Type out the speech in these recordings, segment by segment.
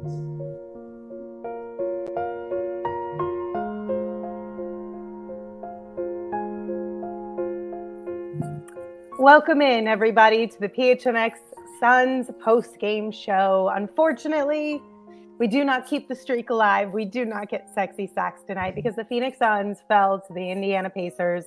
Welcome in, everybody, to the PHNX Suns post-game show. Unfortunately, we do not keep the streak alive. We do not get sexy sacks tonight because the Phoenix Suns fell to the Indiana Pacers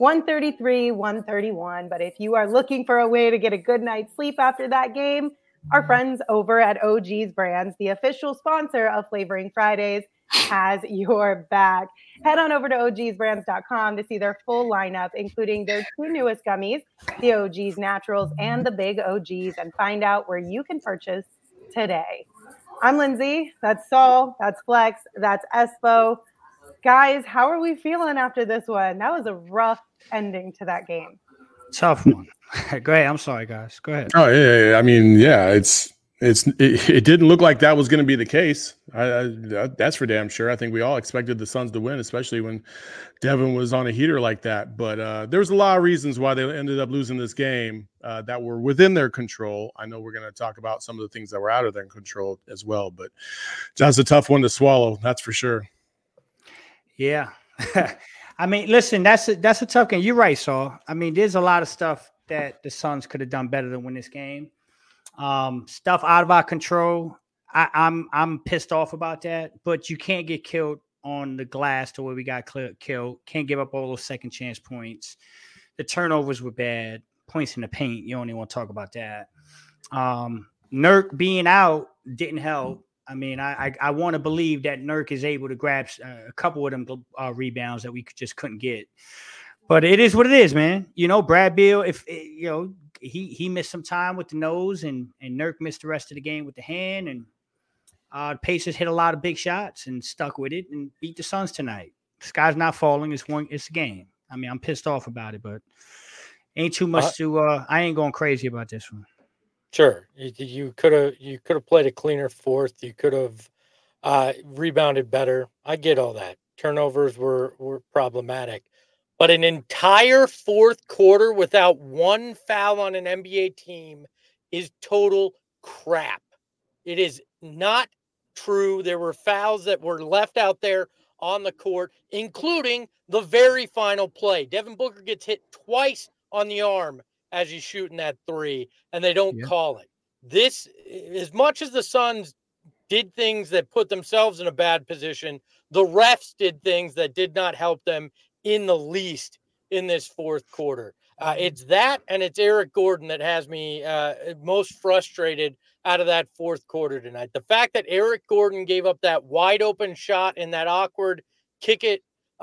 133-131. But if you are looking for a way to get a good night's sleep after that game, our friends over at OG's Brands, the official sponsor of Flavoring Fridays, has your back. Head on over to ogsbrands.com to see their full lineup, including their two newest gummies, the OG's Naturals and the Big OGs, and find out where you can purchase today. I'm Lindsay. That's Saul. That's Flex. That's Espo. Guys, how are we feeling after this one? That was a rough ending to that game. Tough one. Go ahead. I'm sorry, guys. Go ahead. Oh, yeah. I mean, yeah, it didn't look like that was going to be the case. That's for damn sure. I think we all expected the Suns to win, especially when Devin was on a heater like that. But there was a lot of reasons why they ended up losing this game that were within their control. I know we're going to talk about some of the things that were out of their control as well, but that's a tough one to swallow. That's for sure. Yeah. I mean, listen, that's a tough game. You're right, Saul. I mean, there's a lot of stuff that the Suns could have done better than win this game. Stuff out of our control. I'm pissed off about that, but you can't get killed on the glass to where we got killed. Can't give up all those second chance points. The turnovers were bad. Points in the paint. You don't even want to talk about that. Nurk being out didn't help. I mean, I want to believe that Nurk is able to grab a couple of them rebounds that we just couldn't get. But it is what it is, man. You know, Brad Beal, he missed some time with the nose, and Nurk missed the rest of the game with the hand, and the Pacers hit a lot of big shots and stuck with it and beat the Suns tonight. The sky's not falling. It's a game. I mean, I'm pissed off about it, but ain't too much to. I ain't going crazy about this one. Sure, you could have played a cleaner fourth. You could have rebounded better. I get all that. Turnovers were problematic. But an entire fourth quarter without one foul on an NBA team is total crap. It is not true. There were fouls that were left out there on the court, including the very final play. Devin Booker gets hit twice on the arm as he's shooting that three, and they don't call it. This, as much as the Suns did things that put themselves in a bad position, the refs did things that did not help them in the least in this fourth quarter. It's that, and it's Eric Gordon that has me most frustrated out of that fourth quarter tonight. The fact that Eric Gordon gave up that wide open shot in that awkward kick it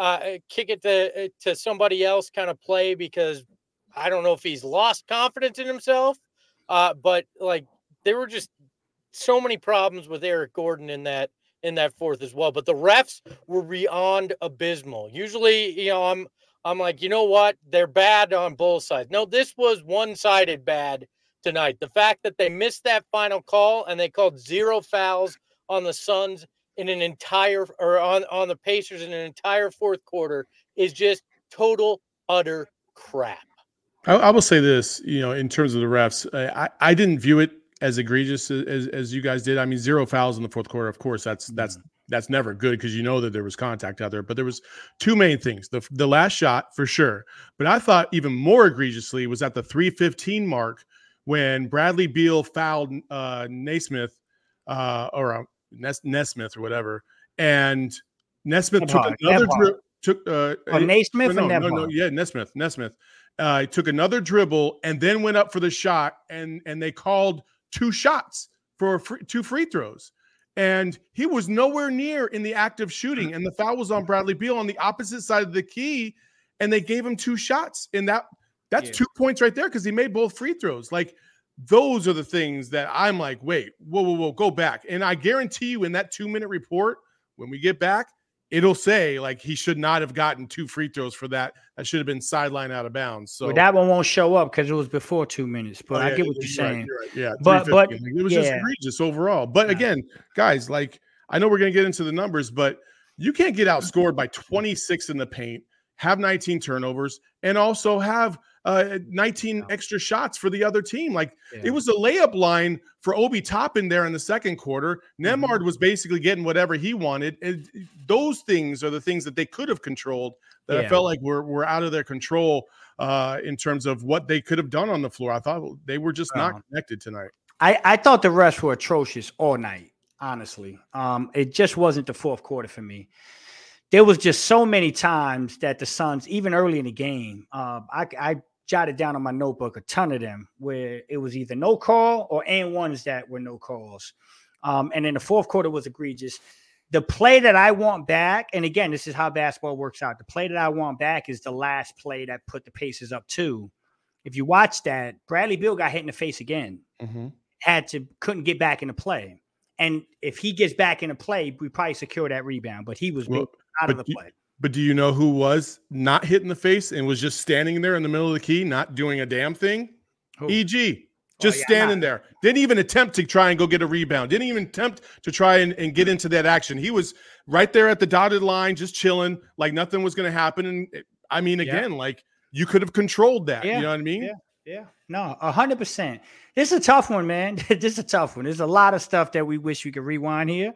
to somebody else kind of play, because I don't know if he's lost confidence in himself, but like there were just so many problems with Eric Gordon in that fourth as well. But the refs were beyond abysmal. Usually, you know, I'm like, you know what? They're bad on both sides. No, this was one-sided bad tonight. The fact that they missed that final call and they called 0 fouls on the Suns in an entire, or on the Pacers in an entire fourth quarter is just total, utter crap. I will say this, you know, in terms of the refs, I didn't view it as egregious as you guys did. I mean, 0 fouls in the fourth quarter. Of course, that's never good because you know that there was contact out there. But there was two main things: the last shot for sure. But I thought even more egregiously was at the 3:15 mark when Bradley Beal fouled Naismith or Nesmith or whatever, and Nesmith took another Naismith and Nesmith. Took another dribble and then went up for the shot, and they called 2 shots for 2 free throws. And he was nowhere near in the act of shooting, and the foul was on Bradley Beal on the opposite side of the key, and they gave him 2 shots. And that's 2 points right there because he made both free throws. Like, those are the things that I'm like, wait, whoa, go back. And I guarantee you in that 2-minute report, when we get back, it'll say, like, he should not have gotten 2 free throws for that. That should have been sideline out of bounds. So that one won't show up because it was before 2 minutes. But I get what you're saying. Right. Yeah, but it was just egregious overall. But again, guys, like, I know we're going to get into the numbers, but you can't get outscored by 26 in the paint, have 19 turnovers, and also have 19 extra shots for the other team. Like it was a layup line for Obi Toppin there in the second quarter. Nembhard was basically getting whatever he wanted. And those things are the things that they could have controlled that I felt like were out of their control in terms of what they could have done on the floor. I thought they were just not connected tonight. I thought the refs were atrocious all night, honestly. It just wasn't the fourth quarter for me. There was just so many times that the Suns, even early in the game, I jotted down on my notebook a ton of them where it was either no call or and ones that were no calls. And then the fourth quarter was egregious. The play that I want back, and again, this is how basketball works out. The play that I want back is the last play that put the Pacers up 2. If you watch that, Bradley Beal got hit in the face again. Couldn't get back into play. And if he gets back into play, we probably secure that rebound. But he was out of the play. But do you know who was not hit in the face and was just standing there in the middle of the key, not doing a damn thing? Who? EG. Just standing there. Didn't even attempt to try and go get a rebound. Didn't even attempt to try and get into that action. He was right there at the dotted line, just chilling, like nothing was going to happen. And I mean, again, like you could have controlled that. You know what I mean? Yeah. No, 100%. This is a tough one, man. This is a tough one. There's a lot of stuff that we wish we could rewind here.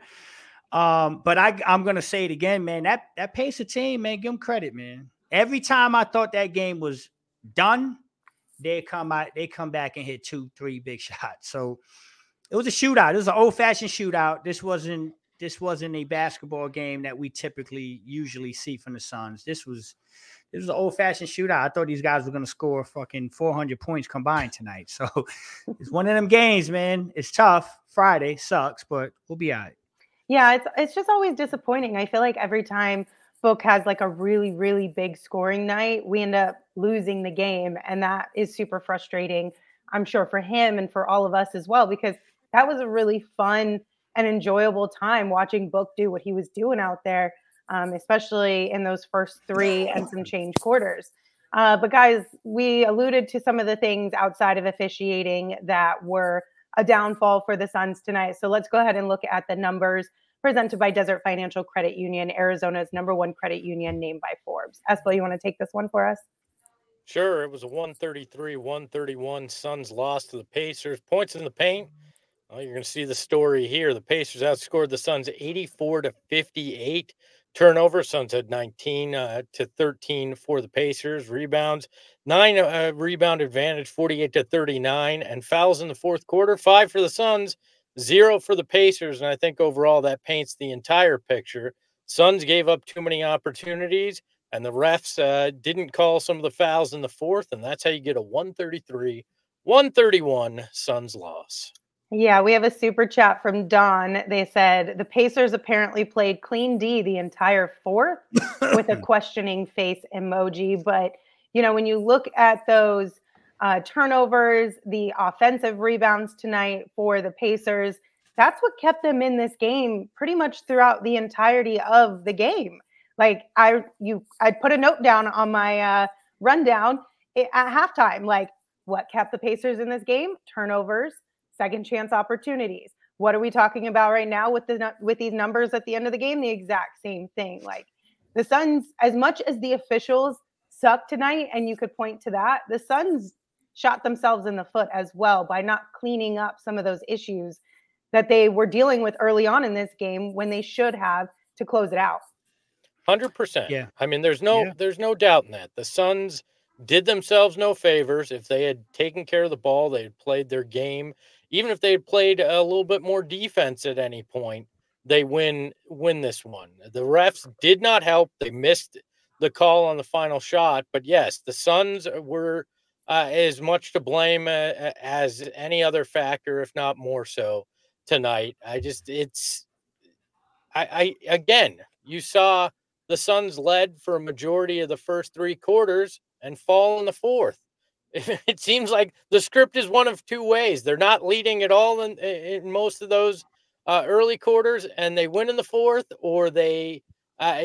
But I'm going to say it again, man. That Pacer team, man, give them credit, man. Every time I thought that game was done, they come back and hit 2-3 big shots. So it was a shootout. It was an old-fashioned shootout. This wasn't a basketball game that we usually see from the Suns. This was an old-fashioned shootout. I thought these guys were going to score fucking 400 points combined tonight. So it's one of them games, man. It's tough. Friday sucks, but we'll be all right. Yeah, it's just always disappointing. I feel like every time Book has like a really, really big scoring night, we end up losing the game. And that is super frustrating, I'm sure, for him and for all of us as well, because that was a really fun and enjoyable time watching Book do what he was doing out there, especially in those first 3 and some change quarters. But guys, we alluded to some of the things outside of officiating that were a downfall for the Suns tonight. So let's go ahead and look at the numbers presented by Desert Financial Credit Union, Arizona's #1 credit union, named by Forbes. Espo, you want to take this one for us? Sure. It was a 133-131 Suns loss to the Pacers. Points in the paint. Well, you're going to see the story here. The Pacers outscored the Suns 84-58. Turnover, Suns had 19-13 for the Pacers. Rebounds, 9 rebound advantage, 48-39. And fouls in the fourth quarter, 5 for the Suns, 0 for the Pacers. And I think overall that paints the entire picture. Suns gave up too many opportunities, and the refs didn't call some of the fouls in the fourth. And that's how you get a 133-131 Suns loss. Yeah, we have a super chat from Don. They said the Pacers apparently played clean D the entire fourth with a questioning face emoji. But, you know, when you look at those turnovers, the offensive rebounds tonight for the Pacers, that's what kept them in this game pretty much throughout the entirety of the game. Like I put a note down on my rundown at halftime, like what kept the Pacers in this game? Turnovers, second chance opportunities. What are we talking about right now with these numbers at the end of the game? The exact same thing. Like the Suns, as much as the officials sucked tonight, and you could point to that, the Suns shot themselves in the foot as well by not cleaning up some of those issues that they were dealing with early on in this game when they should have to close it out. 100%. Yeah. I mean, there's no doubt in that. The Suns did themselves no favors. If they had taken care of the ball, they had played their game. Even if they had played a little bit more defense at any point, they win this one. The refs did not help. They missed the call on the final shot. But yes, the Suns were as much to blame as any other factor, if not more so, tonight. Again, you saw the Suns led for a majority of the first 3 quarters and fall in the fourth. It seems like the script is one of two ways. They're not leading at all in most of those early quarters, and they win in the fourth, or they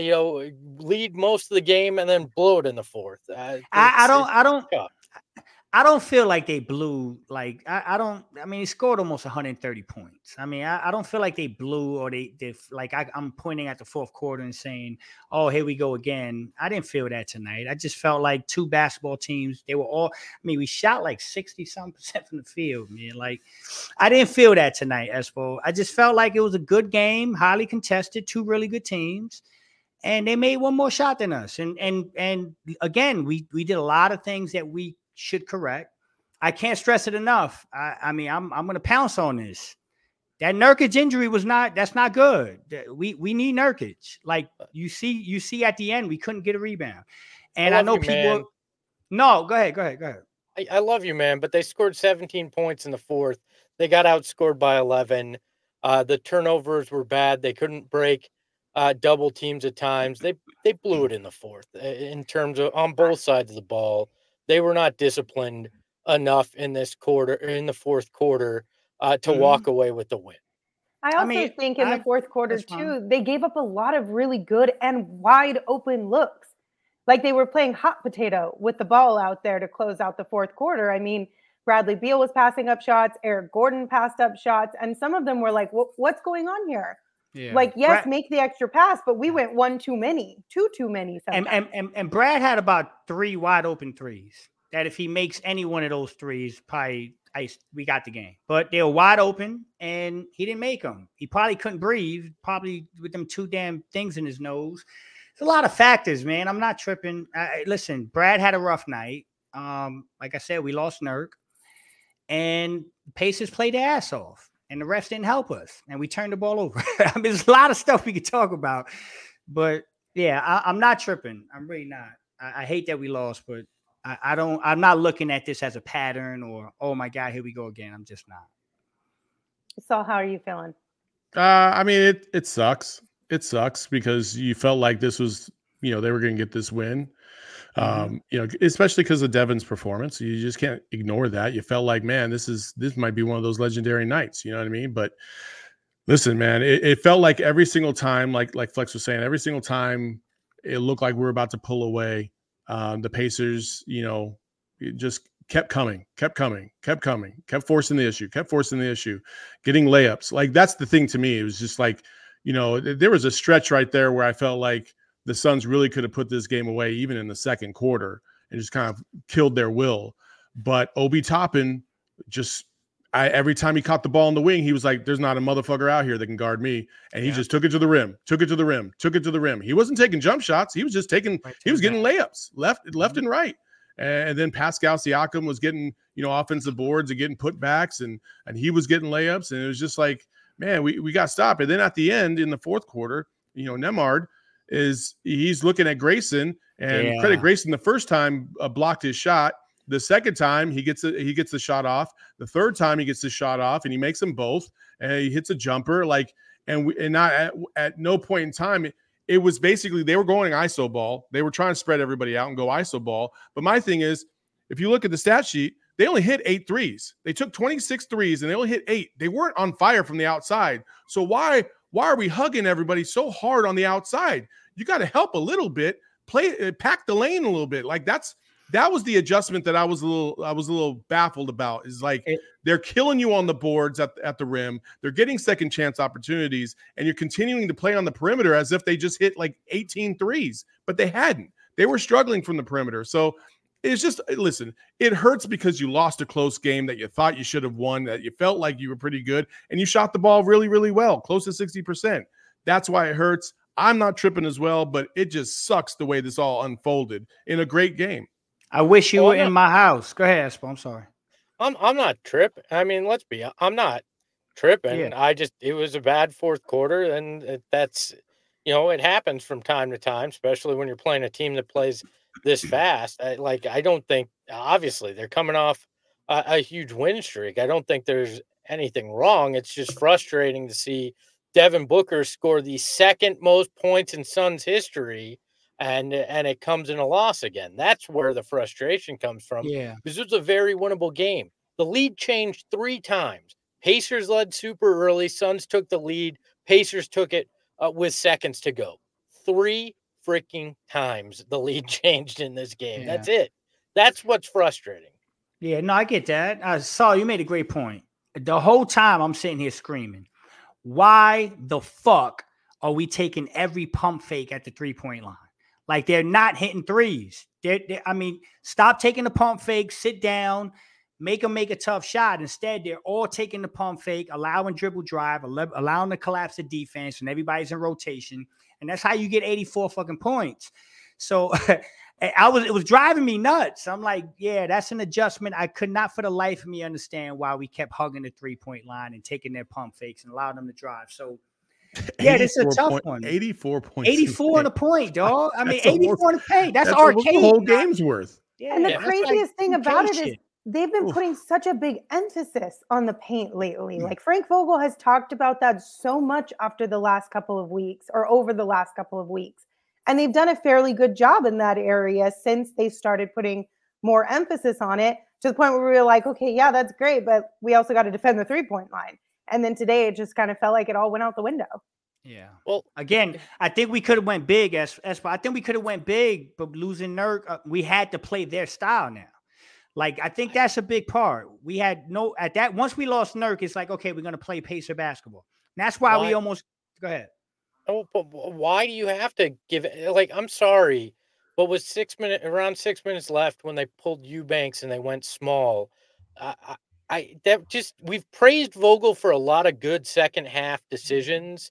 lead most of the game and then blow it in the fourth. I I don't feel like they blew. Like I don't. I mean, he scored almost 130 points. I mean, I don't feel like they blew or they like. I'm pointing at the fourth quarter and saying, "Oh, here we go again." I didn't feel that tonight. I just felt like two basketball teams. They were all. I mean, we shot like 60-some% from the field, man. Like I didn't feel that tonight, Espo. I just felt like it was a good game, highly contested, two really good teams. And they made one more shot than us. And again, we did a lot of things that we should correct. I can't stress it enough. I mean, I'm going to pounce on this. That Nurkic injury that's not good. We need Nurkic. Like you see at the end, we couldn't get a rebound. And I know people. Man. No, go ahead. I love you, man, but they scored 17 points in the fourth. They got outscored by 11. The turnovers were bad. They couldn't break double teams at times. They blew it in the fourth in terms of on both sides of the ball. They were not disciplined enough in the fourth quarter to walk away with the win. I also think in the fourth quarter too, they gave up a lot of really good and wide open looks. Like they were playing hot potato with the ball out there to close out the fourth quarter. I mean, Bradley Beal was passing up shots, Eric Gordon passed up shots, and some of them were like, what's going on here? Yeah. Like, yes, make the extra pass, but we went one too many. And Brad had about 3 wide open threes that if he makes any one of those threes, we got the game. But they were wide open, and he didn't make them. He probably couldn't breathe, probably with them 2 damn things in his nose. There's a lot of factors, man. I'm not tripping. Listen, Brad had a rough night. Like I said, we lost Nurk, and Pacers played their ass off. And the refs didn't help us, and we turned the ball over. I mean, there's a lot of stuff we could talk about, but yeah, I'm not tripping. I'm really not. I hate that we lost, but I'm not looking at this as a pattern or, oh my God, here we go again. I'm just not. So how are you feeling? I mean, it sucks. It sucks because you felt like this was, they were going to get this win. Especially because of Devin's performance. You just can't ignore that. You felt like, man, this might be one of those legendary nights. You know what I mean? But listen, man, it felt like every single time, like Flex was saying, every single time it looked like we were about to pull away. The Pacers, it just kept coming, kept forcing the issue, getting layups. Like that's the thing to me. It was just like, there was a stretch right there where I felt like the Suns really could have put this game away even in the second quarter and just kind of killed their will. But Obi Toppin every time he caught the ball in the wing, he was like, there's not a motherfucker out here that can guard me. And he just took it to the rim. He wasn't taking jump shots. He was just getting layups left and right. And then Pascal Siakam was getting, offensive boards and getting putbacks and he was getting layups. And it was just like, man, we got to stop. And then at the end in the fourth quarter, Nembhard, he's looking at Grayson and credit Grayson the first time blocked his shot. The second time he gets the shot off. The third time he gets the shot off and he makes them both and he hits a jumper and not at no point in time. It was basically they were going ISO ball. They were trying to spread everybody out and go ISO ball. But my thing is, if you look at the stat sheet, they only hit 8 threes. They took 26 threes and they only hit 8. They weren't on fire from the outside. So why are we hugging everybody so hard on the outside? You got to help a little bit, pack the lane a little bit. Like that was the adjustment that I was a little baffled about. Is like they're killing you on the boards at the rim. They're getting second chance opportunities, and you're continuing to play on the perimeter as if they just hit like 18 threes, but they hadn't. They were struggling from the perimeter. So it's just, listen, it hurts because you lost a close game that you thought you should have won, that you felt like you were pretty good, and you shot the ball really, really well, close to 60%. That's why it hurts. I'm not tripping as well, but it just sucks the way this all unfolded in a great game. I wish you were in my house. Go ahead, Espo. I'm sorry. I'm not tripping. I mean, I'm not tripping. Yeah. It was a bad fourth quarter, and that's, it happens from time to time, especially when you're playing a team that plays this fast. I don't think, obviously, they're coming off a huge win streak. I don't think there's anything wrong. It's just frustrating to see Devin Booker score the second most points in Suns history, and it comes in a loss again. That's where the frustration comes from. Yeah, this was a very winnable game. The lead changed 3 times. Pacers led super early. Suns took the lead. Pacers took it with seconds to go. 3 freaking times the lead changed in this game. Yeah. That's it. That's what's frustrating. Yeah, no, I get that. Saul, you made a great point. The whole time I'm sitting here screaming, why the fuck are we taking every pump fake at the 3-point line? Like they're not hitting threes. I mean, stop taking the pump fake, sit down, make them make a tough shot. Instead, they're all taking the pump fake, allowing dribble drive, allowing the collapse of defense, and everybody's in rotation. And that's how you get 84 fucking points. So it was driving me nuts. I'm like, yeah, that's an adjustment. I could not for the life of me understand why we kept hugging the 3-point line and taking their pump fakes and allowing them to drive. So yeah, this is a tough one. 84 points. 84 on a point, dog. I mean, 84 on a paint. That's arcade. The whole game's worth. Yeah, and the craziest thing about it is they've been putting such a big emphasis on the paint lately. Like Frank Vogel has talked about that so much after the last couple of weeks or over the last couple of weeks. And they've done a fairly good job in that area since they started putting more emphasis on it, to the point where we were like, okay, yeah, that's great, but we also got to defend the 3-point line. And then today it just kind of felt like it all went out the window. Yeah. Well, again, I think we could have went big. I think we could have went big, but losing Nurk, we had to play their style now. Like, I think that's a big part. We had once we lost Nurk, it's like, okay, we're going to play Pacer basketball. And that's why we almost, go ahead. Oh, but why do you have to give it? Like, I'm sorry, but with around 6 minutes left when they pulled Eubanks and they went small, we've praised Vogel for a lot of good second half decisions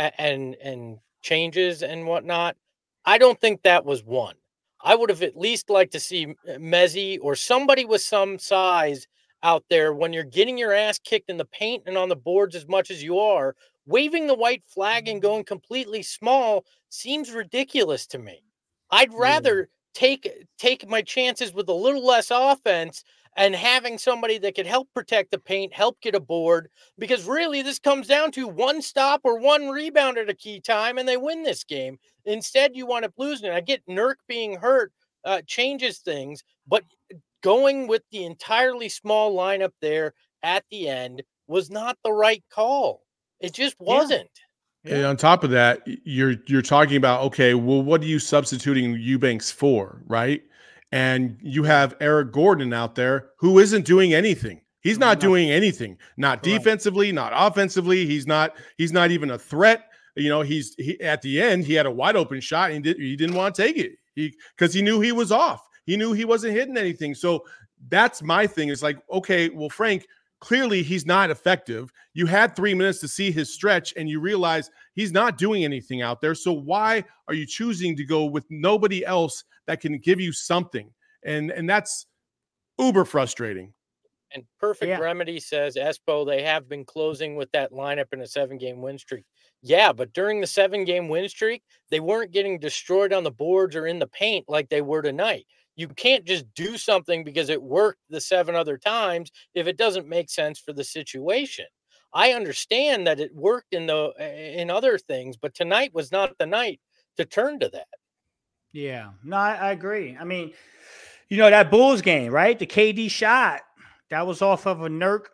and changes and whatnot. I don't think that was one. I would have at least liked to see Mezzi or somebody with some size out there when you're getting your ass kicked in the paint and on the boards as much as you are. Waving the white flag and going completely small seems ridiculous to me. I'd rather take my chances with a little less offense and having somebody that could help protect the paint, help get a board, because really this comes down to one stop or one rebound at a key time and they win this game. Instead, you want to lose it. I get Nurk being hurt changes things, but going with the entirely small lineup there at the end was not the right call. It just wasn't. Yeah. And on top of that, you're talking about, okay, well, what are you substituting Eubanks for, right? And you have Eric Gordon out there who isn't doing anything. He's not doing anything. Not defensively, not offensively. He's not even a threat. You know, he at the end he had a wide open shot and he didn't want to take it because he knew he was off. He knew he wasn't hitting anything. So that's my thing. It's like, okay, well, Frank, clearly he's not effective. You had 3 minutes to see his stretch and you realize he's not doing anything out there. So why are you choosing to go with nobody else that can give you something? And that's uber frustrating. And Perfect Remedy says, Espo, they have been closing with that lineup in a 7-game win streak. Yeah, but during the 7-game win streak, they weren't getting destroyed on the boards or in the paint like they were tonight. You can't just do something because it worked the 7 other times if it doesn't make sense for the situation. I understand that it worked in other things, but tonight was not the night to turn to that. Yeah, no, I agree. I mean, you know, that Bulls game, right? The KD shot, that was off of a Nurk.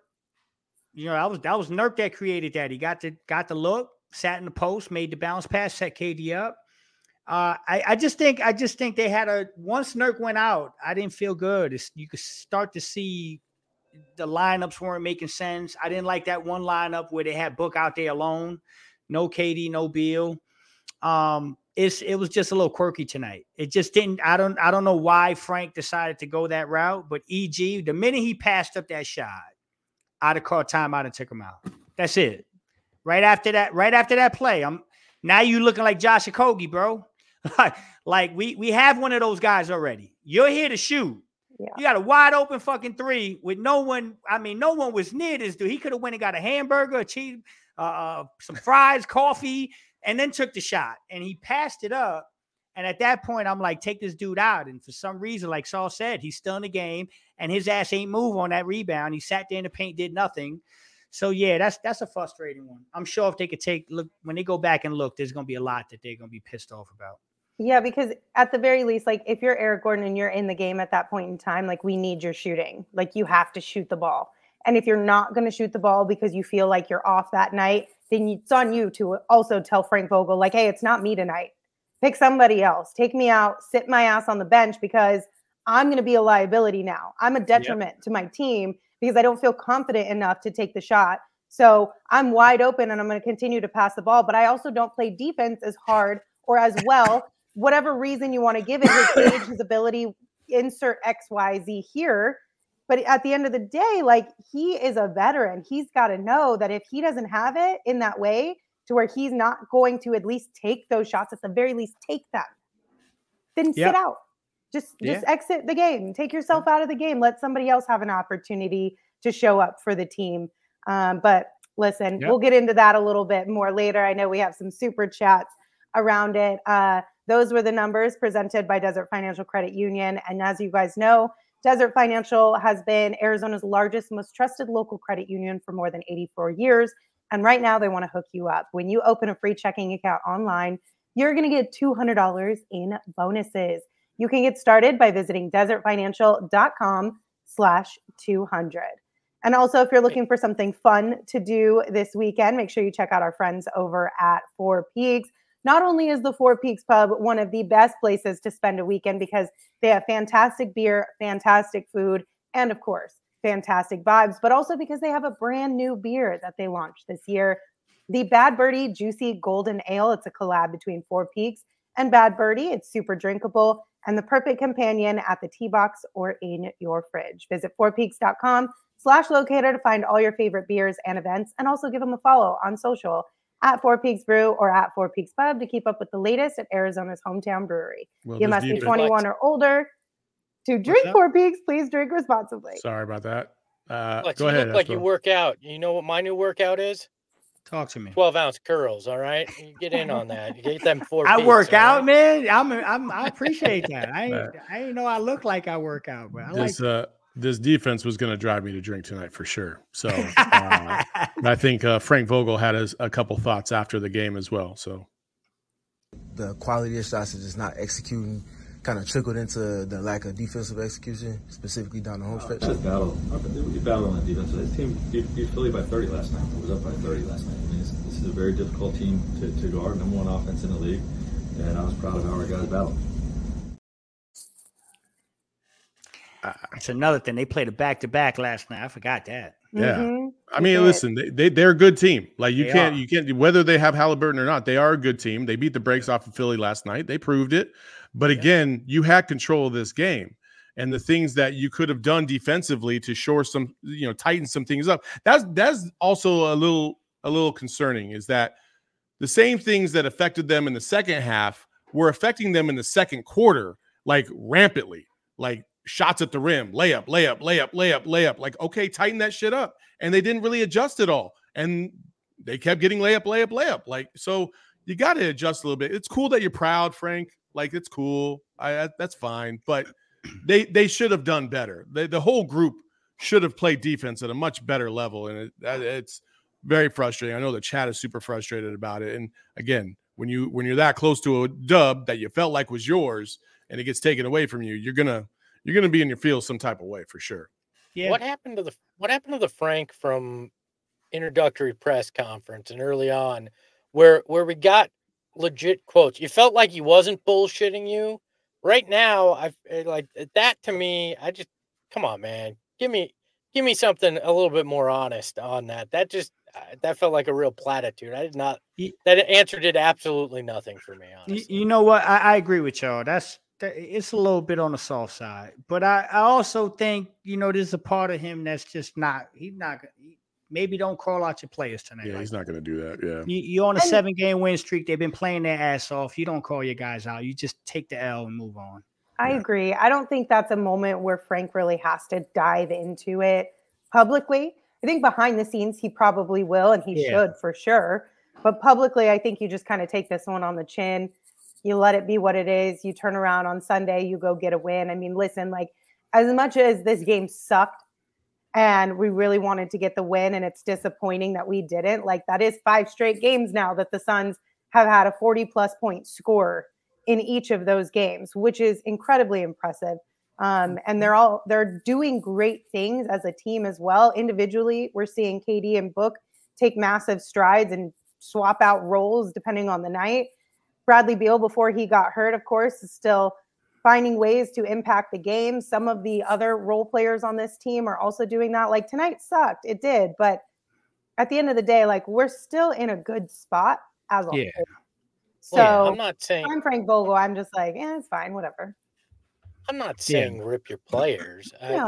You know, that was Nurk that created that. He got the look, sat in the post, made the bounce pass, set KD up. I just think they had once Nurk went out, I didn't feel good. You could start to see the lineups weren't making sense. I didn't like that one lineup where they had Book out there alone, no KD, no Beal. It was just a little quirky tonight. It just didn't. I don't know why Frank decided to go that route, but EG, the minute he passed up that shot, I'd have called timeout and took him out. That's it. Right after that play, now you looking like Josh Okogie, bro. Like we have one of those guys already. You're here to shoot. Yeah. You got a wide open fucking 3 with no one. I mean, no one was near this dude. He could have went and got a hamburger, a cheese, some fries, coffee, and then took the shot. And he passed it up. And at that point, I'm like, take this dude out. And for some reason, like Saul said, he's still in the game, and his ass ain't move on that rebound. He sat there in the paint, did nothing. So yeah, that's a frustrating one. I'm sure if they could look when they go back and look, there's gonna be a lot that they're gonna be pissed off about. Yeah, because at the very least, like if you're Eric Gordon and you're in the game at that point in time, like we need your shooting. Like you have to shoot the ball. And if you're not going to shoot the ball because you feel like you're off that night, then it's on you to also tell Frank Vogel, like, hey, it's not me tonight. Pick somebody else. Take me out, sit my ass on the bench because I'm going to be a liability now. I'm a detriment to my team because I don't feel confident enough to take the shot. So I'm wide open and I'm going to continue to pass the ball. But I also don't play defense as hard or as well. Whatever reason you want to give it, his age, his ability, insert X, Y, Z here. But at the end of the day, like, he is a veteran. He's got to know that if he doesn't have it in that way to where he's not going to at least take those shots, at the very least take them, then sit out. Just exit the game. Take yourself out of the game. Let somebody else have an opportunity to show up for the team. But listen, we'll get into that a little bit more later. I know we have some super chats around it. Those were the numbers presented by Desert Financial Credit Union. And as you guys know, Desert Financial has been Arizona's largest, most trusted local credit union for more than 84 years. And right now they want to hook you up. When you open a free checking account online, you're going to get $200 in bonuses. You can get started by visiting desertfinancial.com/200. And also, if you're looking for something fun to do this weekend, make sure you check out our friends over at Four Peaks. Not only is the Four Peaks Pub one of the best places to spend a weekend because they have fantastic beer, fantastic food, and of course, fantastic vibes, but also because they have a brand new beer that they launched this year, the Bad Birdie Juicy Golden Ale. It's a collab between Four Peaks and Bad Birdie. It's super drinkable and the perfect companion at the tea box or in your fridge. Visit fourpeaks.com/locator to find all your favorite beers and events, and also give them a follow on social at Four Peaks Brew or at Four Peaks Pub to keep up with the latest at Arizona's hometown brewery. You must be 21 or older to drink Four Peaks. Please drink responsibly. Sorry about that. Go ahead. You look like you work out. You know what my new workout is? Talk to me. 12-ounce curls. All right, you get in on that. You get them 4 I Peaks, work out, right? man. I appreciate that. I ain't know I look like I work out, but this defense was going to drive me to drink tonight for sure. So I think Frank Vogel had a couple thoughts after the game as well. So the quality of shots is just not executing, kind of trickled into the lack of defensive execution, specifically down the home stretch. Just battle. We battled on the defense. This team beat Philly by 30 last night. It was up by 30 last night. I mean, this is a very difficult team to guard. Number one offense in the league, and I was proud of how our guys battled. It's another thing. They played a back-to-back last night. I forgot that. Yeah. Mm-hmm. I mean, listen, they're a good team. Like you can't, whether they have Halliburton or not, they are a good team. They beat the brakes off of Philly last night. They proved it. But again, you had control of this game, and the things that you could have done defensively to shore some, tighten some things up. That's also a little concerning, is that the same things that affected them in the second half were affecting them in the second quarter, like rampantly, like shots at the rim, layup. Like, okay, tighten that shit up. And they didn't really adjust at all. And they kept getting layup. Like, so you got to adjust a little bit. It's cool that you're proud, Frank. Like, it's cool. That's fine. But they should have done better. The whole group should have played defense at a much better level. And it's very frustrating. I know the chat is super frustrated about it. And again, when you're that close to a dub that you felt like was yours and it gets taken away from you, you're gonna be in your feels some type of way for sure. Yeah. What happened to the Frank from introductory press conference and early on where we got legit quotes? You felt like he wasn't bullshitting you. Right now, I like that. To me, I just, come on, man, give me something a little bit more honest on that. That just that felt like a real platitude. That answer did absolutely nothing for me, honestly. You know what? I agree with y'all. It's a little bit on the soft side, but I also think, there's a part of him that's just maybe don't call out your players tonight. Yeah, he's not going to do that. Yeah. You're on a 7-game win streak. They've been playing their ass off. You don't call your guys out. You just take the L and move on. I agree. I don't think that's a moment where Frank really has to dive into it publicly. I think behind the scenes, he probably will, and he should for sure. But publicly, I think you just kind of take this one on the chin. You let it be what it is. You turn around on Sunday, you go get a win. I mean, listen, like, as much as this game sucked and we really wanted to get the win, and it's disappointing that we didn't, like, that is 5 straight games now that the Suns have had a 40-plus point score in each of those games, which is incredibly impressive. And they're doing great things as a team as well. Individually, we're seeing KD and Book take massive strides and swap out roles depending on the night. Bradley Beal, before he got hurt, of course, is still finding ways to impact the game. Some of the other role players on this team are also doing that. Like tonight sucked. It did. But at the end of the day, like we're still in a good spot as a whole. So I'm not saying I'm Frank Vogel. I'm just like, it's fine, whatever. I'm not saying rip your players. No.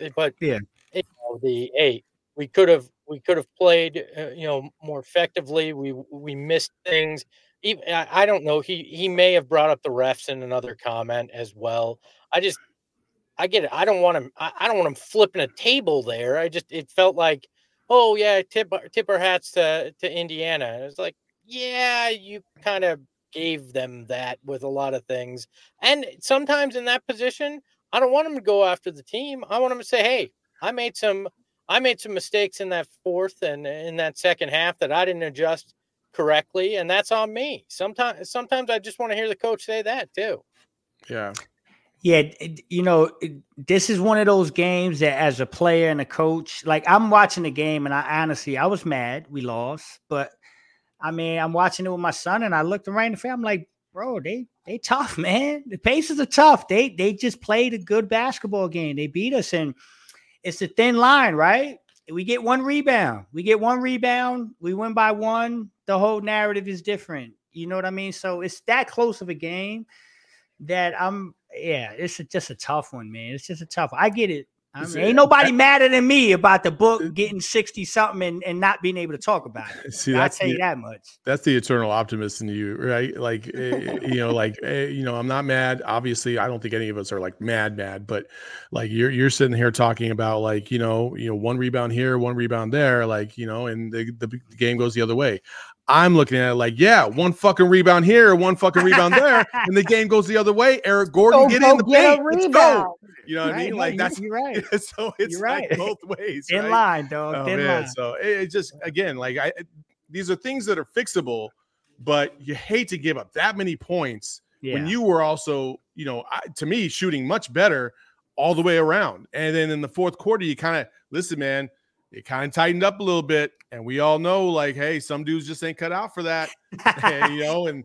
We could have played, more effectively. We missed things. Even, I don't know. He may have brought up the refs in another comment as well. I get it. I don't want him flipping a table there. It felt like, oh yeah, tip our hats to Indiana. It's like, yeah, you kind of gave them that with a lot of things. And sometimes in that position, I don't want him to go after the team. I want him to say, hey, I made some mistakes in that fourth and in that second half that I didn't adjust correctly, and that's on me. Sometimes I just want to hear the coach say that too. Yeah. Yeah, this is one of those games that as a player and a coach, like I'm watching the game and I was mad we lost, but I mean, I'm watching it with my son and I looked right in the face. I'm like, bro, they tough, man. The Pacers are tough. They just played a good basketball game. They beat us, and it's a thin line, right? We get one rebound. We win by one. The whole narrative is different. You know what I mean? So it's that close of a game that it's just a tough one, man. It's just a tough one. I get it. I mean, ain't nobody madder than me about the book getting 60-something and not being able to talk about it. See, I'll tell you that much. That's the eternal optimist in you, right? Like, I'm not mad. Obviously, I don't think any of us are like mad, but like you're sitting here talking about like, one rebound here, one rebound there, like, and the game goes the other way. I'm looking at it like, yeah, one fucking rebound here, one fucking rebound there, and the game goes the other way. Eric Gordon, get in the paint. Let's go. You know what I mean? Like you're right. So it's right. Like both ways. In line, dog. In line. So it just, again, like these are things that are fixable, but you hate to give up that many points when you were also, to me, shooting much better all the way around. And then in the fourth quarter, you kind of listen, man. It kind of tightened up a little bit, and we all know, like, hey, some dudes just ain't cut out for that, and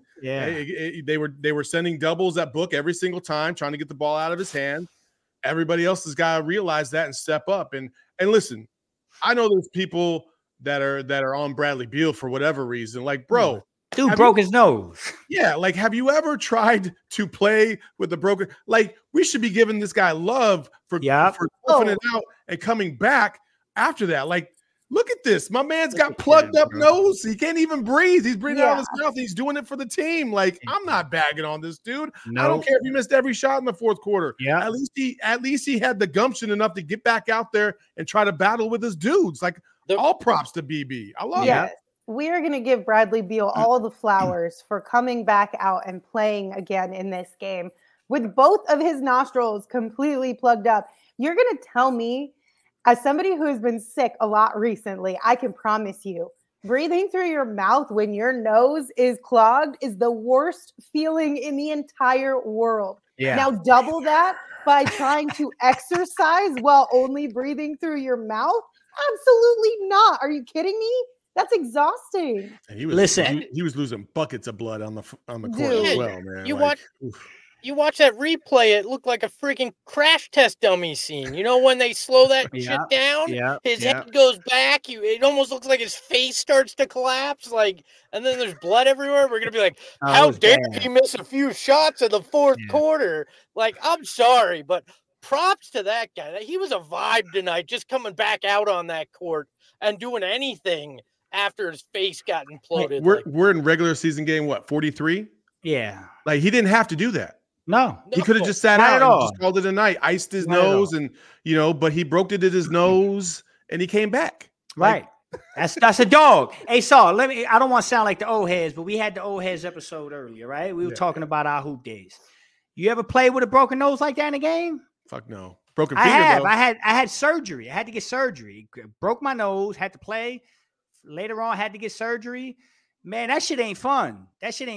they were sending doubles at Book every single time, trying to get the ball out of his hand. Everybody else has got to realize that and step up. And listen, I know there's people that are on Bradley Beal for whatever reason, like, bro, dude broke his nose. Yeah, like, have you ever tried to play with the broken? Like, we should be giving this guy love for toughing it out and coming back. After that, like, look at this. My man's got plugged up nose. He can't even breathe. He's breathing out of his mouth. He's doing it for the team. Like, I'm not bagging on this dude. No. I don't care if he missed every shot in the fourth quarter. Yeah. At least he had the gumption enough to get back out there and try to battle with his dudes. Like, all props to BB. I love it. We are going to give Bradley Beal all the flowers for coming back out and playing again in this game with both of his nostrils completely plugged up. You're going to tell me, as somebody who has been sick a lot recently, I can promise you, breathing through your mouth when your nose is clogged is the worst feeling in the entire world. Yeah. Now double that by trying to exercise while only breathing through your mouth? Absolutely not. Are you kidding me? That's exhausting. And he was losing buckets of blood on the court as well, man. You watch that replay, it looked like a freaking crash test dummy scene. You know, when they slow that shit down, his head goes back. It almost looks like his face starts to collapse. Like, and then there's blood everywhere. We're going to be like, how dare he miss a few shots in the fourth quarter? Like, I'm sorry, but props to that guy. He was a vibe tonight, just coming back out on that court and doing anything after his face got imploded. We're in regular season game, 43? Yeah. Like, he didn't have to do that. No, he could have just sat out and just called it a night, iced his nose, and but he broke it at his nose and he came back. Right. That's a dog. Hey, Saul, I don't want to sound like the old heads, but we had the old heads episode earlier, right? We were talking about our hoop days. You ever play with a broken nose like that in a game? Fuck no. Broken finger. I had surgery. I had to get surgery. Broke my nose, had to play. Later on, had to get surgery. Man, that shit ain't fun.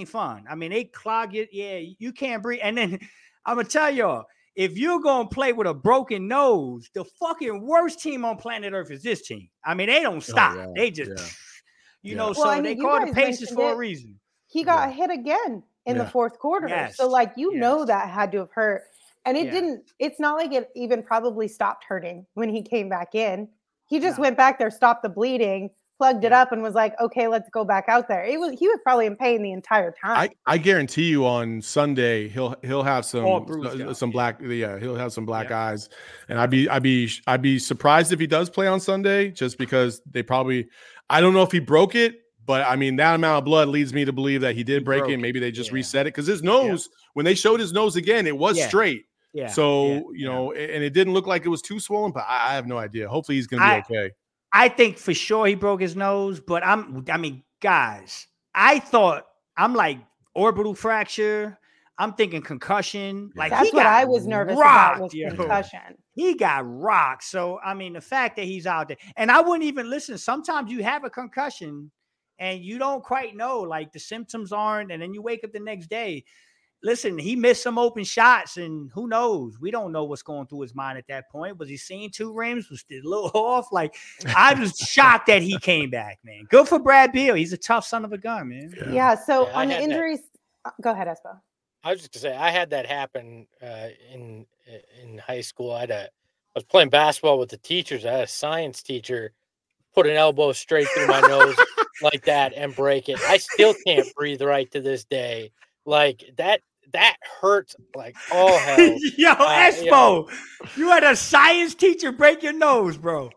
I mean, they clog it. Yeah, you can't breathe. And then I'm going to tell y'all, if you're going to play with a broken nose, the fucking worst team on planet Earth is this team. I mean, they don't stop. They just, so they call the Pacers for a reason. He got hit again in the fourth quarter. Yes. So like, you know, Yes. that had to have hurt. And it Yeah. didn't, it's not like it even probably stopped hurting when he came back in. He just No. went back there, stopped the bleeding, plugged it Yeah. up, and was like, okay, let's go back out there. He was probably in pain the entire time. I guarantee you on Sunday he'll have All bruised up, some black he'll have some black Yeah. eyes, and I'd be surprised if he does play on Sunday, just because they probably, I don't know if he broke it, but I mean that amount of blood leads me to believe that he did break broke it. it. Maybe they just Yeah. reset it because his nose, when they showed his nose again, it was Yeah. straight. Yeah. So you know, and it didn't look like it was too swollen, but I have no idea. Hopefully he's going to be okay. I think for sure he broke his nose, but I mean, guys, I'm like orbital fracture. I'm thinking concussion. Like That's he what got I was nervous rocked, about was yo. concussion. He got rocked. So I mean, the fact that he's out there, and I wouldn't even listen. Sometimes you have a concussion and you don't quite know, like the symptoms aren't, and then you wake up the next day. Listen, he missed some open shots, and who knows? We don't know what's going through his mind at that point. Was he seeing two rims? Was it a little off? Like, I was shocked that he came back, man. Good for Brad Beal. He's a tough son of a gun, man. Yeah. So Yeah, I on the had that. injuries, go ahead, Espo. I was just gonna say I had that happen in high school. I was playing basketball with the teachers. I had a science teacher put an elbow straight through my nose like that and break it. I still can't breathe right to this day. Like that hurts like all hell. Yo, Espo, you had a science teacher break your nose, bro.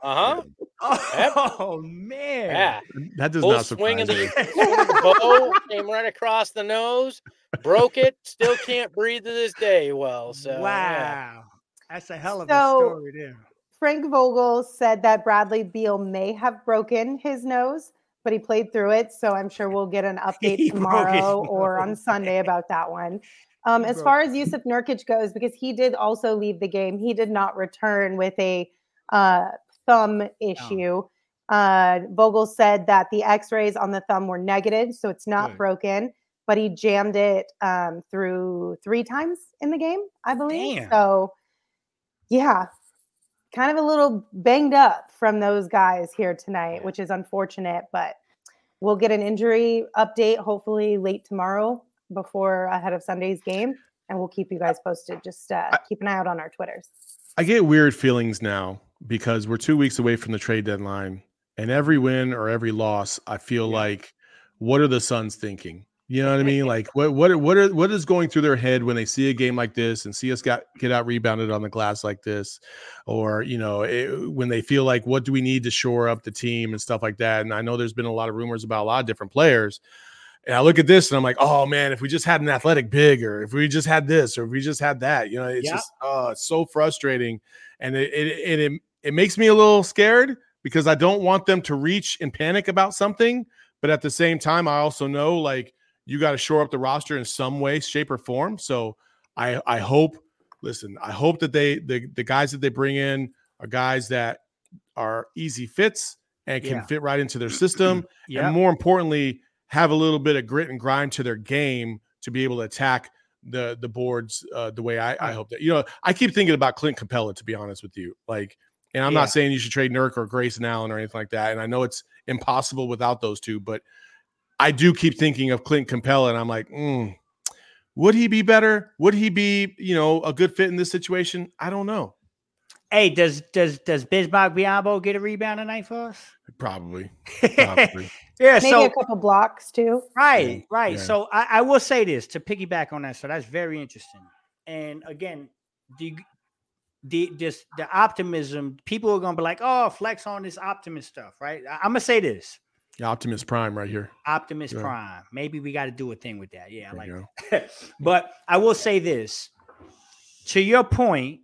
Oh man. Yeah. That does Full not swing of surprise me. the bow came right across the nose, broke it, still can't breathe to this day. Well, so Wow. yeah. That's a hell of So- a story there. Frank Vogel said that Bradley Beal may have broken his nose, but he played through it. So I'm sure we'll get an update He broke his tomorrow or on nose. Sunday about that one. He As broke far as Yusuf Nurkic goes, because he did also leave the game, he did not return with a thumb issue. Vogel said that the x-rays on the thumb were negative, so it's not Good. broken, but he jammed it through 3 times in the game, I believe. Damn. So, yeah, kind of a little banged up from those guys here tonight, which is unfortunate, but we'll get an injury update hopefully late tomorrow before ahead of Sunday's game, and we'll keep you guys posted. Just keep an eye out on our Twitters. I get weird feelings now because we're 2 weeks away from the trade deadline, and every win or every loss, I feel like, what are the Suns thinking? You know what I mean? Like, what is going through their head when they see a game like this and see us get out rebounded on the glass like this, or you know, when they feel like, what do we need to shore up the team and stuff like that? And I know there's been a lot of rumors about a lot of different players. And I look at this and I'm like, oh man, if we just had an athletic big, or if we just had this, or if we just had that, you know, it's just it's so frustrating, and it makes me a little scared because I don't want them to reach and panic about something, but at the same time, I also know like you got to shore up the roster in some way, shape, or form. So I hope that the guys that they bring in are guys that are easy fits and can fit right into their system, and more importantly, have a little bit of grit and grind to their game to be able to attack the boards the way I hope that. You know, I keep thinking about Clint Capella, to be honest with you. Like, and I'm not saying you should trade Nurk or Grayson Allen or anything like that. And I know it's impossible without those two, but I do keep thinking of Clint Capella, and I'm like, would he be better? Would he be, you know, a good fit in this situation? I don't know. Hey, does Bismarck Biyombo get a rebound tonight for us? Probably. Yeah. Maybe So a couple blocks too. right. Yeah. So I will say this to piggyback on that. So that's very interesting. And again, the optimism, people are gonna be like, oh, flex on this optimist stuff, right? I'm gonna say this. Optimus Prime right here. Optimus Prime. Maybe we got to do a thing with that. Yeah, I like you that. But I will say this. To your point,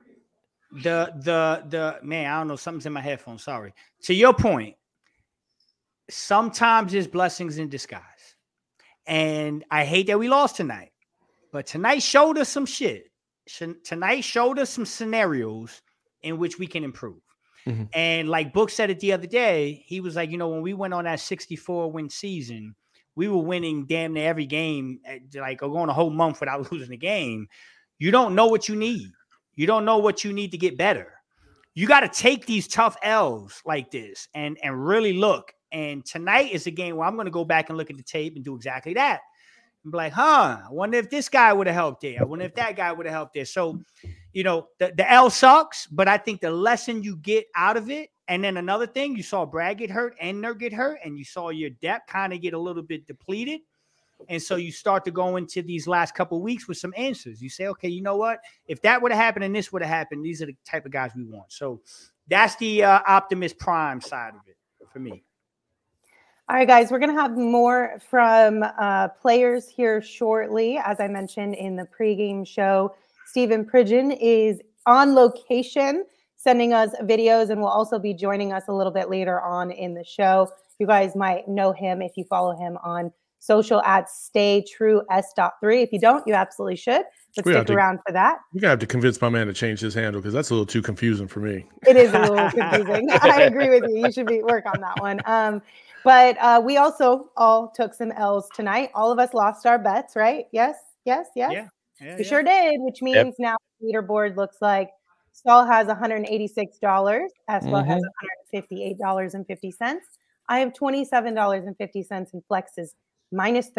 the man, I don't know, something's in my headphones. Sorry. To your point, sometimes there's blessings in disguise. And I hate that we lost tonight. But tonight showed us some shit. Tonight showed us some scenarios in which we can improve. Mm-hmm. And like Book said it the other day, he was like, you know, when we went on that 64-win season, we were winning damn near every game, like going a whole month without losing a game. You don't know what you need. You don't know what you need to get better. You got to take these tough L's like this and really look. And tonight is a game where I'm going to go back and look at the tape and do exactly that. I'm like, I wonder if this guy would have helped there. I wonder if that guy would have helped there. So, the L sucks, but I think the lesson you get out of it. And then another thing, you saw Brad get hurt and Nurk get hurt, and you saw your depth kind of get a little bit depleted. And so you start to go into these last couple of weeks with some answers. You say, okay, you know what? If that would have happened and this would have happened, these are the type of guys we want. So that's the Optimus Prime side of it for me. All right, guys, we're going to have more from players here shortly. As I mentioned in the pregame show, Stephen Pridgeon is on location sending us videos and will also be joining us a little bit later on in the show. You guys might know him if you follow him on social at StayTrueS.3. If you don't, you absolutely should. But stick around for that. We're going to have to convince my man to change his handle because that's a little too confusing for me. It is a little confusing. I agree with you. You should work on that one. But we also all took some L's tonight. All of us lost our bets, right? Yes. Yeah, we sure did, which means now the leaderboard looks like Saul has $186. Espo has $158.50. I have $27.50 and Flex is minus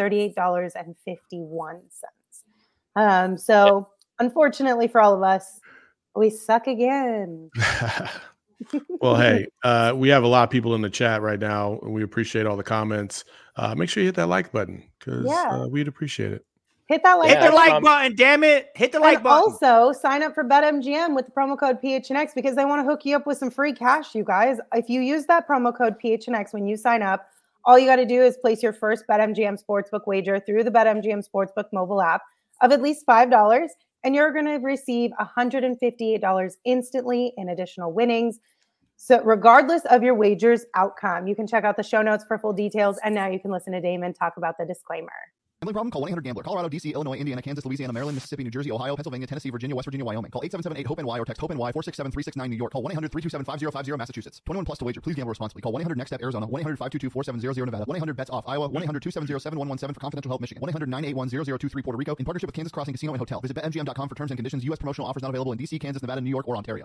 $38.51. So unfortunately for all of us, we suck again. Well, hey, we have a lot of people in the chat right now, and we appreciate all the comments. Make sure you hit that like button because we'd appreciate it. Hit that like button, damn it. Hit the like button. Also, sign up for BetMGM with the promo code PHNX because they want to hook you up with some free cash, you guys. If you use that promo code PHNX when you sign up, all you got to do is place your first BetMGM Sportsbook wager through the BetMGM Sportsbook mobile app of at least $5, and you're going to receive $158 instantly in additional winnings. So regardless of your wager's outcome, you can check out the show notes for full details, and now you can listen to Damon talk about the disclaimer. Gambling problem? Call 1-800-GAMBLER. Colorado, D.C., Illinois, Indiana, Kansas, Louisiana, Maryland, Mississippi, New Jersey, Ohio, Pennsylvania, Tennessee, Virginia, West Virginia, Wyoming. Call 877-8-HOPE-NY or text HOPE-NY 467-369 New York. Call 1-800-327-5050 Massachusetts. 21 plus to wager. Please gamble responsibly. Call 1-800-NEXT-STEP Arizona. 1-800-522-4700 Nevada. 1-800-BETS-OFF Iowa. 1-800-270-7117 for confidential help Michigan. 1-800-981-0023 Puerto Rico in partnership with Kansas Crossing Casino and Hotel. Visit BetMGM.com for terms and conditions. U.S. promotional offers not available in D.C., Kansas, Nevada, New York, or Ontario.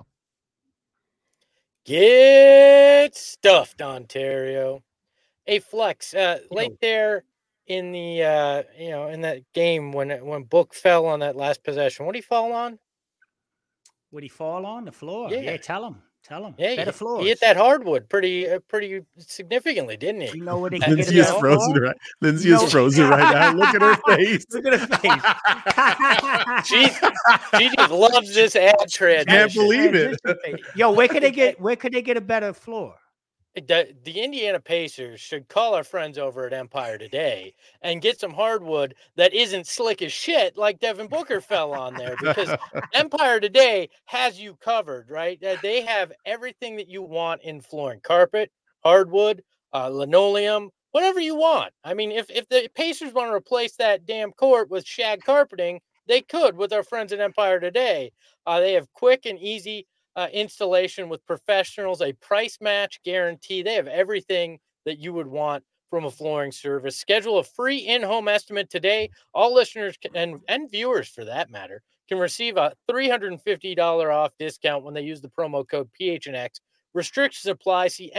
Get stuffed, Ontario. Hey, Flex, late there in the in that game when Book fell on that last possession, what did he fall on? Would he fall on the floor? Yeah, tell him. Yeah, better floors. He hit that hardwood pretty significantly, didn't he? You know what? Lindsay is frozen right. Lindsay is frozen right now. Look at her face. Look at her face. She just loves this ad trend. Can't believe it. Yo, where could they get a better floor? The Indiana Pacers should call our friends over at Empire today and get some hardwood that isn't slick as shit like Devin Booker fell on there, because Empire today has you covered, right? They have everything that you want in flooring: carpet, hardwood, linoleum, whatever you want. I mean, if the Pacers want to replace that damn court with shag carpeting, they could with our friends at Empire today. They have quick and easy installation with professionals, a price match guarantee. They have everything that you would want from a flooring service. Schedule a free in-home estimate today. All listeners and viewers, for that matter, can receive a $350 off discount when they use the promo code PHNX. Restrictions apply. See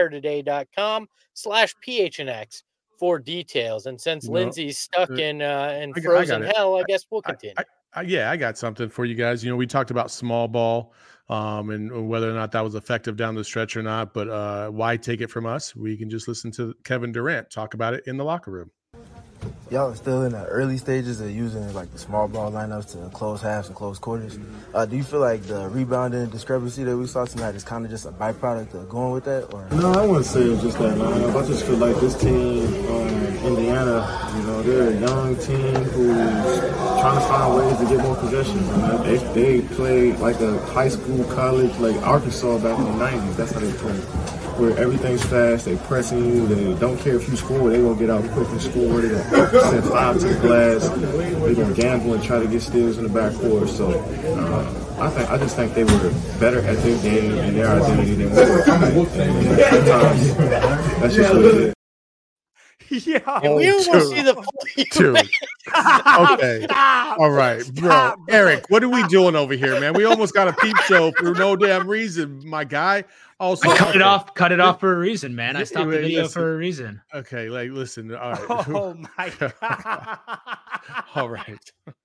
empiretoday.com/PHNX for details. And since Lindsay's stuck in frozen hell, I guess we'll continue. I got something for you guys. We talked about small ball and whether or not that was effective down the stretch or not, but why take it from us? We can just listen to Kevin Durant talk about it in the locker room. Y'all are still in the early stages of using like the small ball lineups to close halves and close quarters. Do you feel like the rebounding discrepancy that we saw tonight is kind of just a byproduct of going with that? Or no, I wouldn't say it's just that lineup. I just feel like this team, Indiana, they're a young team who's trying to find ways to get more possession. They play like a high school, college, like Arkansas back in the 90s. That's how they play. Where everything's fast, they pressing you, they don't care if you score, they gonna get out quick and score, they gonna send 5 to the glass, they gonna gamble and try to get steals in the backcourt. So I just think they were better at their game and their identity than we were tonight. And sometimes that's just what it is. Yeah. We almost see the Dude. Okay. Stop. All right, Stop, bro. Eric, what are we doing over here, man? We almost got a peep show for no damn reason, my guy. Also, I cut okay. it off for a reason, man. I stopped the video Listen. for a reason. Okay, like listen. All right. Oh my God. All right.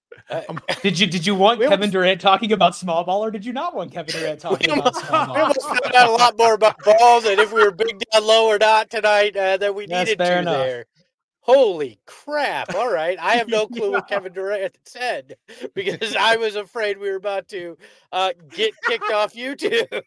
Did you want Kevin Durant talking about small ball, or did you not want Kevin Durant talking about small We ball? almost found out a lot more about balls and if we were big down low or not tonight than we That's needed fair to enough. there. Holy crap. All right. I have no clue what Yeah. Kevin Durant said because I was afraid we were about to get kicked off YouTube.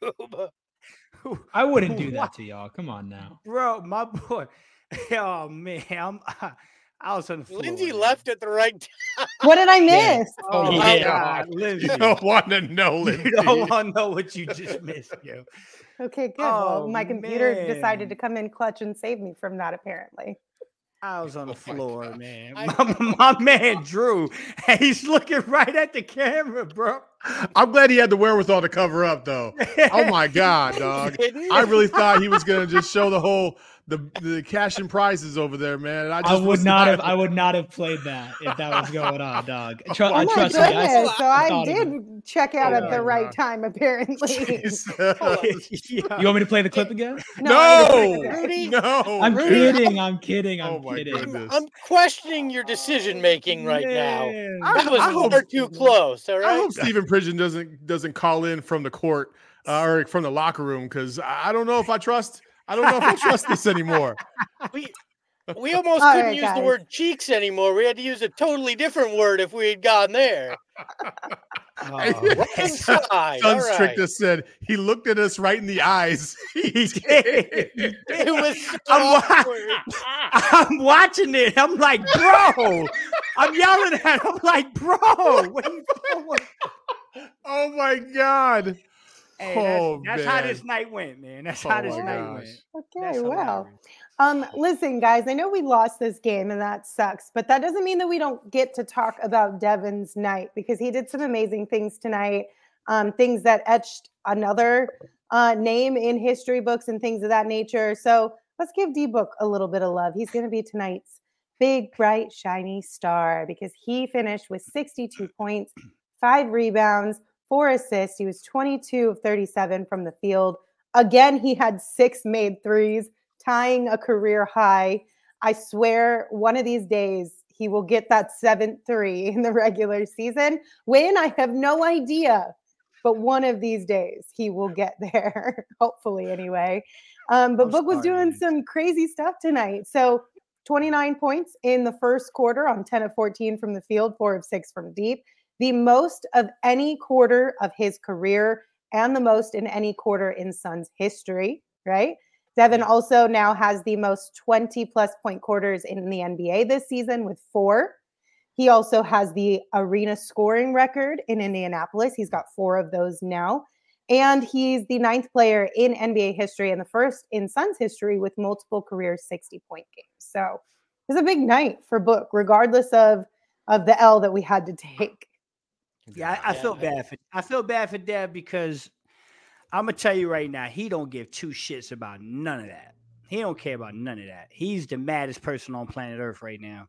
I wouldn't do that to y'all. Come on now. Bro, my boy. Oh man, I was on the floor. Lindsay man. left at the right time. What did I miss? Oh Yeah. my God, Lindsay. You don't want to know, Lindsay. You don't want to know what you just missed, yo. Okay, good. Well, Oh, my computer man. decided to come in clutch and save me from that, apparently. I was on the Oh my floor, God. man. I- My man Drew, and he's looking right at the camera, bro. I'm glad he had the wherewithal to cover up, though. Oh my God, dog! I really thought he was gonna just show the whole the cash and prizes over there, man. And I would not have played that if that was going on, dog. Oh Trust my me. goodness. So I thought of it. did check out Oh at my the right God. time, apparently. Jesus. Yeah. You want me to play the clip again? No, Rudy, no. I'm Rudy. kidding. Oh my kidding. goodness. I'm questioning your decision making right now. Man. That was I hope- far too close. All I right. hope Stephen Pridgeon doesn't call in from the court or from the locker room because I don't know if I trust this anymore. We almost All couldn't right, use the guys. word cheeks anymore. We had to use a totally different word if we had gone there. Oh, Right inside. All Suns right. Trick just said he looked at us right in the eyes. he did. He It did. was so I'm, awkward. I'm watching it. I'm like, bro. I'm yelling at him. I'm like, bro. What are you doing? Oh my God. Hey, Oh, that's how man. this night went, man. That's Oh how this my night gosh. went. Okay, That's well. hilarious. Listen, guys, I know we lost this game and that sucks, but that doesn't mean that we don't get to talk about Devin's night because he did some amazing things tonight, things that etched another name in history books and things of that nature. So let's give D-Book a little bit of love. He's going to be tonight's big, bright, shiny star because he finished with 62 points, 5 rebounds, 4 assists. He was 22 of 37 from the field. Again, he had 6 made threes, tying a career high. I swear one of these days he will get that 7th 3 in the regular season. When? I have no idea. But one of these days he will get there, hopefully anyway. But I'm Book was sorry, doing man. some crazy stuff tonight. So 29 points in the first quarter on 10 of 14 from the field, 4 of 6 from deep. The most of any quarter of his career and the most in any quarter in Suns history, right? Devin also now has the most 20-plus point quarters in the NBA this season with 4. He also has the arena scoring record in Indianapolis. He's got 4 of those now. And he's the 9th player in NBA history and the first in Suns history with multiple career 60-point games. So it was a big night for Book, regardless of the L that we had to take. Yeah, I feel bad for Dev because I'm gonna tell you right now, he don't give 2 shits about none of that. He don't care about none of that. He's the maddest person on planet Earth right now.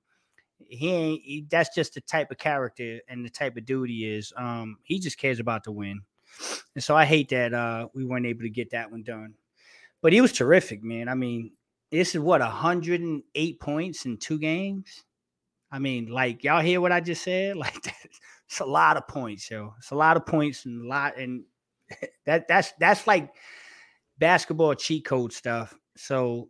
That's just the type of character and the type of dude he is. He just cares about the win. And so I hate that we weren't able to get that one done. But he was terrific, man. I mean, this is 108 points in 2 games. I mean, like, y'all hear what I just said? Like, it's a lot of points, yo. It's a lot of points and that's like basketball cheat code stuff. So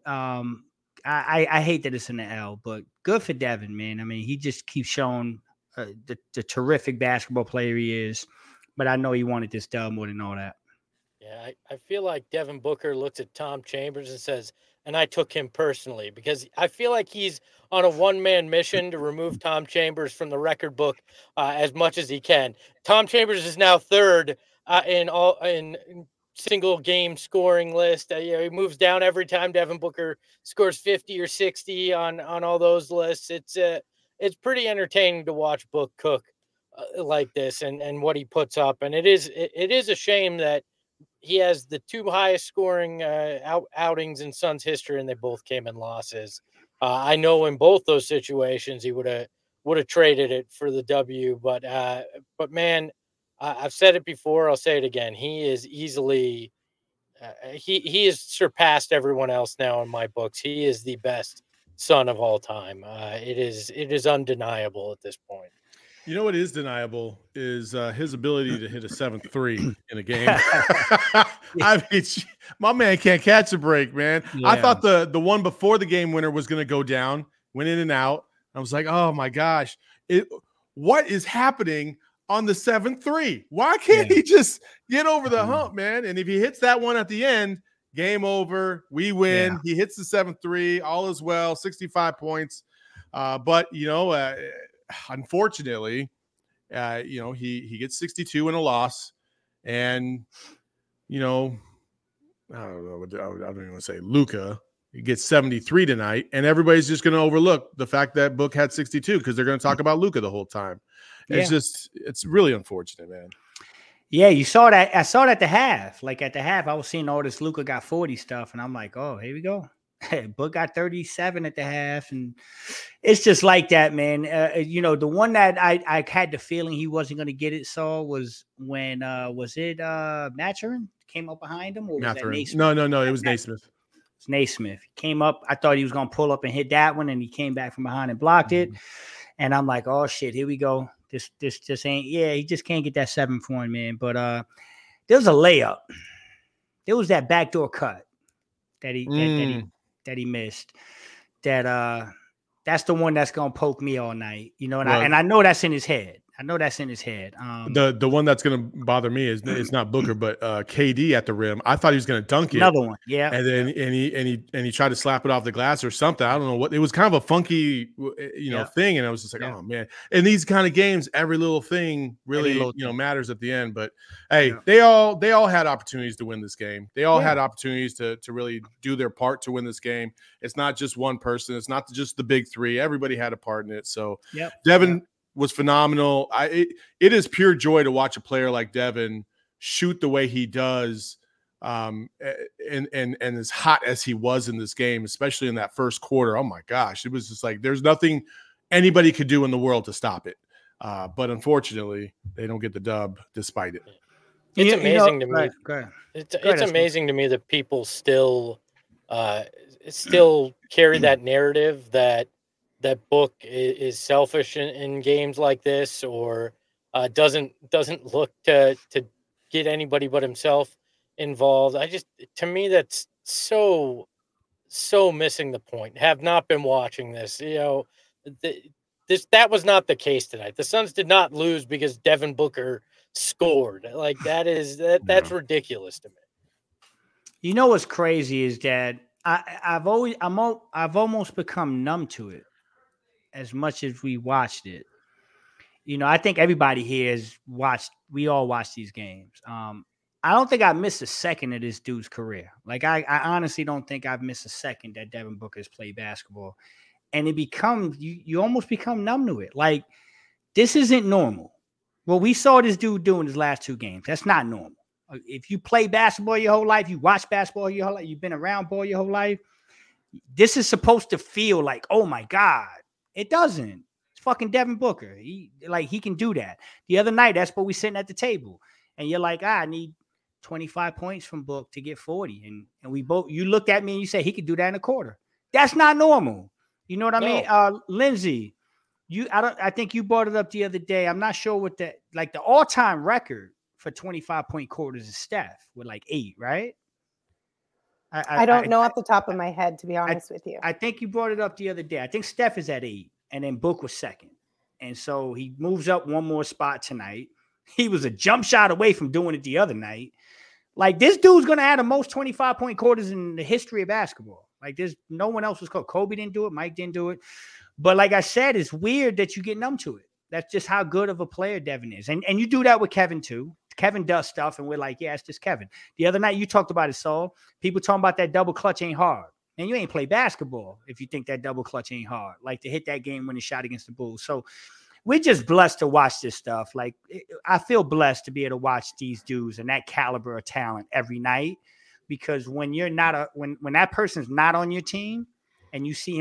I hate that it's in the L, but good for Devin, man. I mean, he just keeps showing the terrific basketball player he is. But I know he wanted this dub more than all that. Yeah, I feel like Devin Booker looks at Tom Chambers and says, and I took him personally because I feel like he's on a one-man mission to remove Tom Chambers from the record book as much as he can. Tom Chambers is now 3rd in single game scoring list. He moves down every time Devin Booker scores 50 or 60 on all those lists. It's pretty entertaining to watch Book cook like this and what he puts up. And it is a shame that he has the 2 highest scoring outings in Suns history, and they both came in losses. I know in both those situations he would have traded it for the W. But man, I've said it before. I'll say it again. He is easily he has surpassed everyone else now in my books. He is the best Sun of all time. It is undeniable at this point. You know what is deniable is his ability to hit a 7-3 in a game. I mean, my man can't catch a break, man. Yeah. I thought the one before the game winner was going to go down, went in and out. I was like, oh my gosh, what is happening on the 7-3? Why can't he just get over the hump, man? And if he hits that one at the end, game over, we win. Yeah. He hits the 7-3, all is well, 65 points. But unfortunately, he gets 62 in a loss, and I don't know. I don't even want to say Luka. He gets 73 tonight, and everybody's just going to overlook the fact that Book had 62 because they're going to talk about Luka the whole time. It's really unfortunate, man. Yeah, you saw that. I saw that at the half. Like at the half, I was seeing all this Luka got 40 stuff, and I'm like, oh, here we go. Book got 37 at the half, and it's just like that, man. The one that I had the feeling he wasn't going to get it, was when was it Mathurin came up behind him, or was that Naismith? No, it was Naismith. It's Naismith. He came up. I thought he was going to pull up and hit that one, and he came back from behind and blocked it. And I'm like, oh shit, here we go. This just ain't. Yeah, he just can't get that 7 for him, man. But there was a layup. There was that backdoor cut that he missed. That's the one that's gonna poke me all night, and I know that's in his head. The one that's gonna bother me is it's not Booker, but KD at the rim. I thought he was gonna dunk it. Another one, yeah. And then he tried to slap it off the glass or something. I don't know what it was. Kind of a funky, thing. And I was just like, oh man. In these kind of games, every little thing really, matters at the end. But hey, they all had opportunities to win this game. They all had opportunities to really do their part to win this game. It's not just one person. It's not just the big three. Everybody had a part in it. So Devin was phenomenal. It is pure joy to watch a player like Devin shoot the way he does, and as hot as he was in this game, especially in that first quarter. Oh my gosh, it was just like there's nothing anybody could do in the world to stop it. But unfortunately, they don't get the dub despite it. It's amazing to me. It's amazing to me that people still carry that narrative that Book is selfish in games like this, or doesn't look to get anybody but himself involved. To me, that's so missing the point. Have not been watching this. That was not the case tonight. The Suns did not lose because Devin Booker scored. Like that's ridiculous to me. You know what's crazy is that I've almost become numb to it. As much as we watched it, I think everybody here has watched. We all watch these games. I don't think I missed a second of this dude's career. Like I honestly don't think I've missed a second that Devin Booker has played basketball, and it becomes you almost become numb to it. Like this isn't normal. What we saw this dude do in his last 2 games, that's not normal. If you play basketball your whole life, you watch basketball your whole life, you've been around ball your whole life. This is supposed to feel like, oh my God. It doesn't. It's fucking Devin Booker. He can do that. The other night, that's what we sitting at the table. And you're like, I need 25 points from Book to get 40. And we both, you looked at me and you said he could do that in a quarter. That's not normal. You know what I mean? Lindsay, I think you brought it up the other day. I'm not sure what the all-time record for 25-point quarters is Steph with 8, right? I don't know off the top of my head, to be honest with you. I think you brought it up the other day. I think Steph is at 8, and then Book was second. And so he moves up one more spot tonight. He was a jump shot away from doing it the other night. Like, this dude's going to have the most 25-point quarters in the history of basketball. Like, there's no one else was called. Kobe didn't do it. Mike didn't do it. But like I said, it's weird that you get numb to it. That's just how good of a player Devin is. And you do that with Kevin, too. Kevin does stuff, and we're like, yeah, it's just Kevin. The other night, you talked about it, Saul. People talking about that double clutch ain't hard. And you ain't play basketball if you think that double clutch ain't hard. Like, to hit that game-winning shot against the Bulls. So we're just blessed to watch this stuff. Like, I feel blessed to be able to watch these dudes and that caliber of talent every night. Because when you're not when that person's not on your team and you see him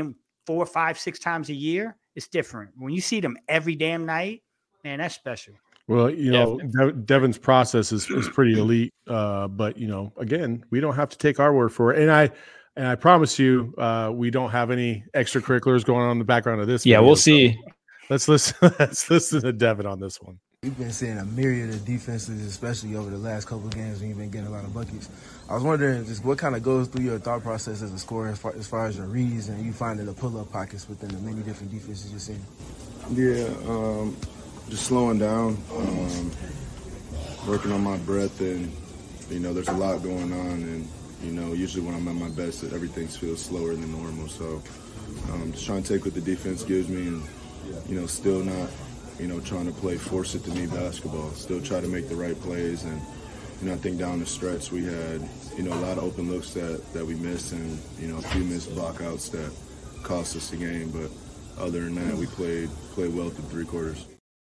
4, 5, 6 times a year, it's different. When you see them every damn night, man, that's special. Well, Devin's process is pretty elite. But again, we don't have to take our word for it. And I promise you, we don't have any extracurriculars going on in the background of this. Yeah, video, we'll see. Let's listen. Let's listen to Devin on this one. We've been seeing a myriad of defenses, especially over the last couple of games when you've been getting a lot of buckets. I was wondering just what kind of goes through your thought process as a scorer as far as your reads and you finding the pull-up pockets within the many different defenses you're seeing. Yeah, just slowing down, working on my breath, and there's a lot going on, and usually when I'm at my best, everything feels slower than normal. So just trying to take what the defense gives me, and still not trying to force it to me basketball. Still try to make the right plays, and I think down the stretch we had a lot of open looks that we missed, and a few missed blockouts that cost us the game. But other than that, we played well through 3 quarters.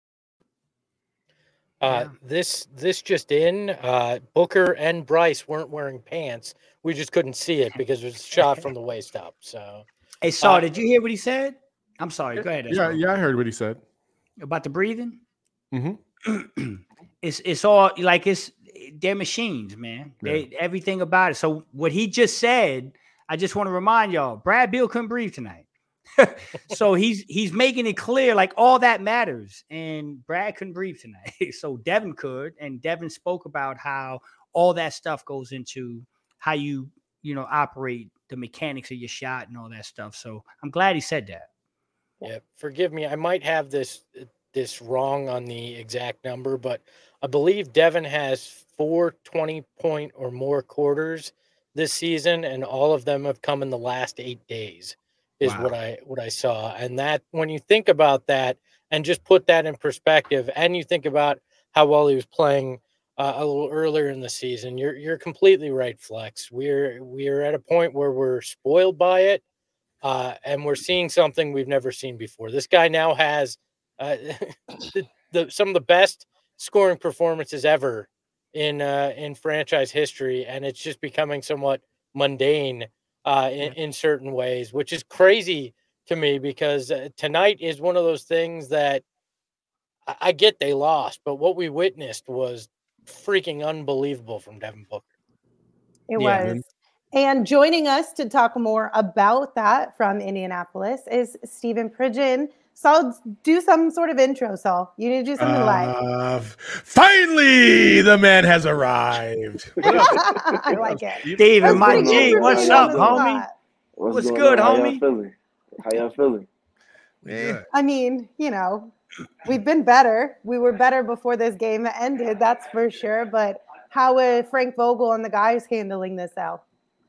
This just in, Booker and Bryce weren't wearing pants. We just couldn't see it because it was shot from the waist up. So, hey, Saul, did you hear what he said? I'm sorry. Go ahead. Yeah, I heard what he said about the breathing. Mm-hmm. It's all like they're machines, man. Everything about it. So what he just said, I just want to remind y'all, Brad Beal couldn't breathe tonight. So he's making it clear like all that matters, and Brad couldn't breathe tonight. So Devin could, and Devin spoke about how all that stuff goes into how you operate the mechanics of your shot and all that stuff. So I'm glad he said that. Yeah, forgive me, I might have this wrong on the exact number, but I believe Devin has 4 20-point or more quarters this season, and all of them have come in the last 8 days. Is what I saw. And that when you think about that and just put that in perspective, and you think about how well he was playing a little earlier in the season, you're completely right, Flex. We're at a point where we're spoiled by it, and we're seeing something we've never seen before. This guy now has some of the best scoring performances ever in franchise history, and it's just becoming somewhat mundane in certain ways, which is crazy to me because tonight is one of those things that I get they lost, but what we witnessed was freaking unbelievable from Devin Booker. It was. And joining us to talk more about that from Indianapolis is Stephen Pridgeon. Saul, do some sort of intro, Saul. You need to do something live. Finally, the man has arrived. I like it. Steven, my G, what's up, homie? What's good, homie? How y'all feeling? Yeah. I mean, we've been better. We were better before this game ended, that's for sure. But how are Frank Vogel and the guys handling this out?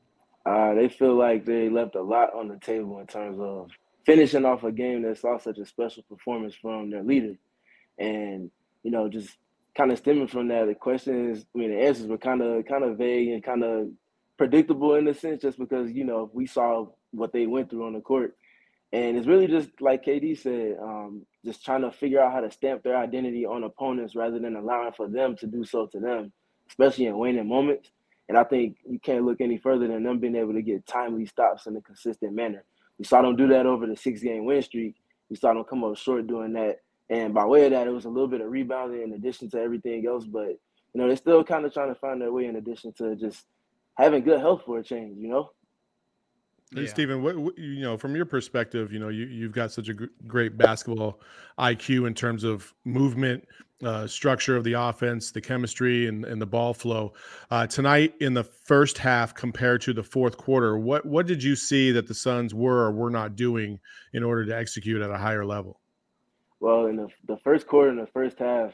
They feel like they left a lot on the table in terms of finishing off a game that saw such a special performance from their leader. And, just kind of stemming from that, the answers were kind of vague and kind of predictable in a sense, just because, we saw what they went through on the court. And it's really just like KD said, just trying to figure out how to stamp their identity on opponents rather than allowing for them to do so to them, especially in waning moments. And I think you can't look any further than them being able to get timely stops in a consistent manner. We saw them do that over the 6-game win streak. We saw them come up short doing that. And by way of that, it was a little bit of rebounding in addition to everything else. But, they're still kind of trying to find their way in addition to just having good health for a change, Hey, Stephen, what from your perspective, you've got such a great basketball IQ in terms of movement, structure of the offense, the chemistry, and the ball flow. Tonight in the first half compared to the fourth quarter, what did you see that the Suns were or were not doing in order to execute at a higher level? Well, in the first quarter and the first half,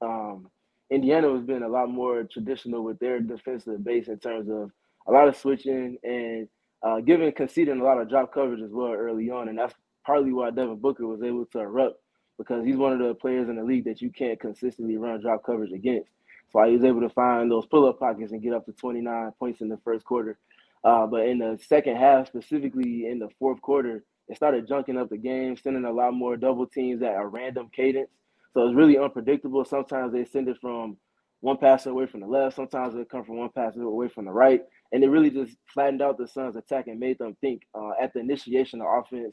Indiana was being a lot more traditional with their defensive base in terms of a lot of switching and conceding a lot of drop coverage as well early on. And that's partly why Devin Booker was able to erupt, because he's one of the players in the league that you can't consistently run drop coverage against. So he was able to find those pull-up pockets and get up to 29 points in the first quarter. But in the second half, specifically in the fourth quarter, it started junking up the game, sending a lot more double teams at a random cadence. So it's really unpredictable. Sometimes they send it from one passer away from the left. Sometimes they come from one passer away from the right. And it really just flattened out the Suns' attack and made them think at the initiation of offense,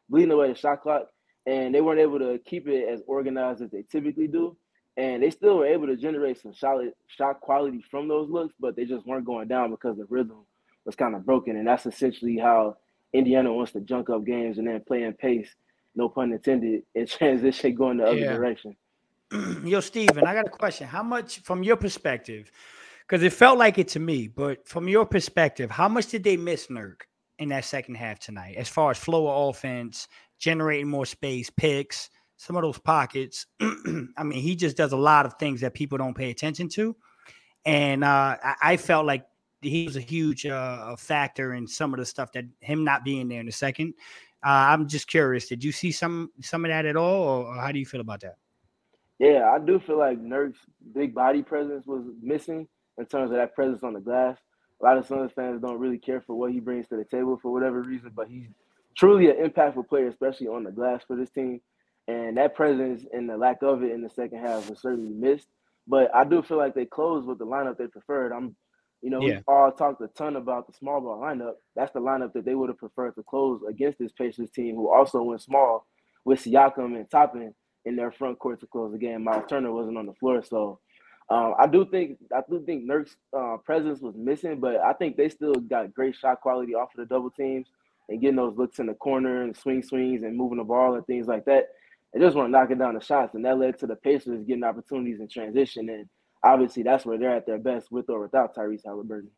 bleeding away the shot clock, and they weren't able to keep it as organized as they typically do. And they still were able to generate some solid shot quality from those looks, but they just weren't going down because the rhythm was kind of broken. And that's essentially how Indiana wants to junk up games and then play in pace, no pun intended, and transition going the other direction. Yo, Steven, I got a question. How much, from your perspective, because it felt like it to me, but from your perspective, how much did they miss Nurk in that second half tonight as far as flow of offense, generating more space, picks, some of those pockets? I mean, he just does a lot of things that people don't pay attention to. And I felt like he was a huge factor in some of the stuff that him not being there in the second. I'm just curious. Did you see some of that at all, or how do you feel about that? Yeah, I do feel like Nurk's big body presence was missing in terms of that presence on the glass. A lot of Suns fans don't really care for what he brings to the table for whatever reason, but he's truly an impactful player, especially on the glass for this team. And that presence and the lack of it in the second half was certainly missed. But I do feel like they closed with the lineup they preferred. We all talked a ton about the small ball lineup. That's the lineup that they would have preferred to close against this Pacers team, who also went small with Siakam and Toppin in their front court to close the game. Miles Turner wasn't on the floor, so I do think Nurk's presence was missing, but I think they still got great shot quality off of the double teams and getting those looks in the corner and swings and moving the ball and things like that. They just weren't knocking down the shots, and that led to the Pacers getting opportunities in transition. And obviously, that's where they're at their best, with or without Tyrese Halliburton.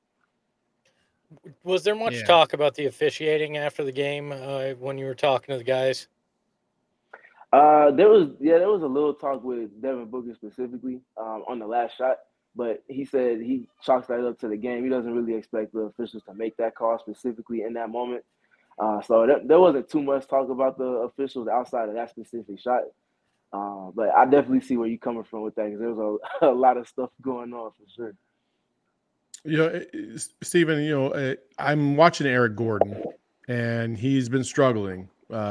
Was there much talk about the officiating after the game when you were talking to the guys? There was a little talk with Devin Booker specifically on the last shot, but he said he chalks that up to the game. He doesn't really expect the officials to make that call specifically in that moment. So there wasn't too much talk about the officials outside of that specific shot. But I definitely see where you're coming from with that, because there was a lot of stuff going on for sure. Steven, I'm watching Eric Gordon, and he's been struggling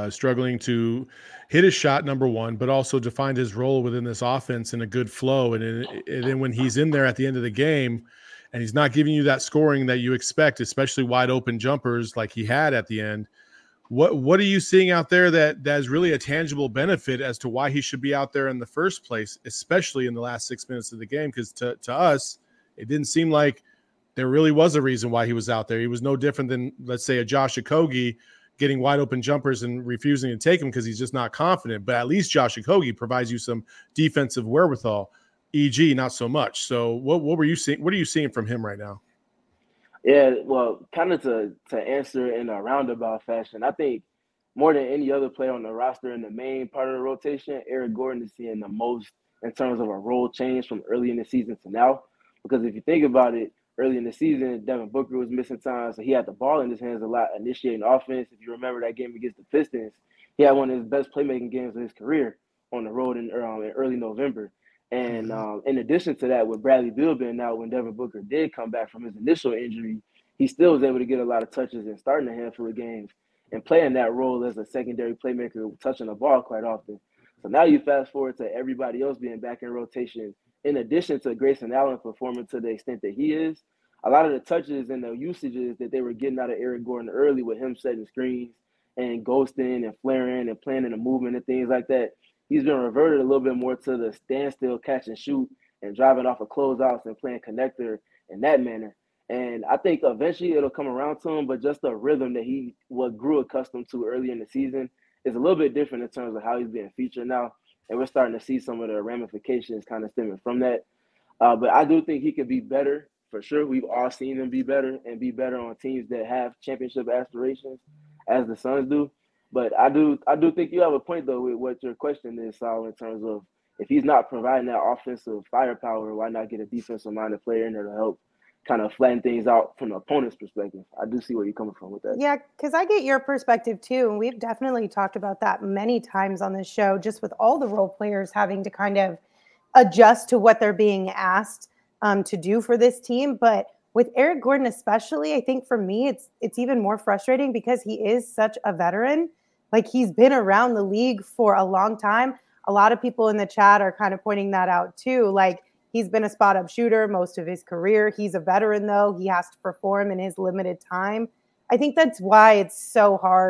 to hit his shot, number one, but also to find his role within this offense in a good flow. And then when he's in there at the end of the game and he's not giving you that scoring that you expect, especially wide open jumpers like he had at the end, what are you seeing out there that is really a tangible benefit as to why he should be out there in the first place, especially in the last 6 minutes of the game? Because to us, it didn't seem like there really was a reason why he was out there. He was no different than, let's say, a Josh Okogie getting wide open jumpers and refusing to take them because he's just not confident. But at least Josh Okogie provides you some defensive wherewithal. EG, not so much. So what were you seeing? What are you seeing from him right now? Yeah, well, kind of to answer in a roundabout fashion, I think more than any other player on the roster in the main part of the rotation, Eric Gordon is seeing the most in terms of a role change from early in the season to now. Because if you think about it, early in the season, Devin Booker was missing time, so he had the ball in his hands a lot, initiating offense. If you remember that game against the Pistons, he had one of his best playmaking games of his career on the road in early November. And in addition to that, with Bradley Beal being out, when Devin Booker did come back from his initial injury, he still was able to get a lot of touches and starting a handful of games and playing that role as a secondary playmaker, touching the ball quite often. So now you fast forward to everybody else being back in rotation. In addition to Grayson Allen performing to the extent that he is, a lot of the touches and the usages that they were getting out of Eric Gordon early, with him setting screens and ghosting and flaring and planning the movement and things like that, he's been reverted a little bit more to the standstill catch and shoot and driving off of closeouts and playing connector in that manner. And I think eventually it'll come around to him, but just the rhythm that he grew accustomed to early in the season is a little bit different in terms of how he's being featured now. And we're starting to see some of the ramifications kind of stemming from that. But I do think he could be better, for sure. We've all seen him be better and be better on teams that have championship aspirations, as the Suns do. But I do think you have a point, though, with what your question is, Sal, in terms of if he's not providing that offensive firepower, why not get a defensive-minded player in there to help kind of flatten things out from the opponent's perspective? I do see where you're coming from with that. Yeah, because I get your perspective too. And we've definitely talked about that many times on this show, just with all the role players having to kind of adjust to what they're being asked to do for this team. But with Eric Gordon especially, I think for me, it's even more frustrating because he is such a veteran. Like, he's been around the league for a long time. A lot of people in the chat are kind of pointing that out too. Like, he's been a spot-up shooter most of his career. He's a veteran, though. He has to perform in his limited time. I think that's why it's so hard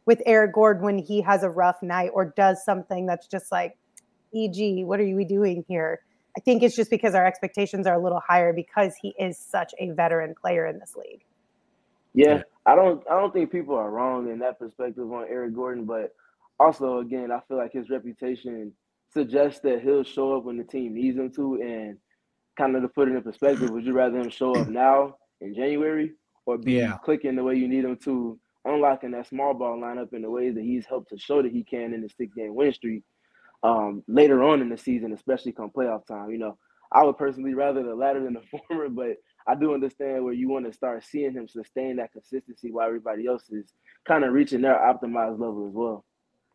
with Eric Gordon when he has a rough night or does something that's just like, EG, what are we doing here? I think it's just because our expectations are a little higher because he is such a veteran player in this league. Yeah, I don't think people are wrong in that perspective on Eric Gordon, but also again, I feel like his reputation suggests that he'll show up when the team needs him to. And kind of to put it in perspective, would you rather him show up now in January or be clicking the way you need him to, unlocking that small ball lineup in the ways that he's helped to show that he can in the 6-game win streak later on in the season, especially come playoff time? You know, I would personally rather the latter than the former, but I do understand where you want to start seeing him sustain that consistency while everybody else is kind of reaching their optimized level as well.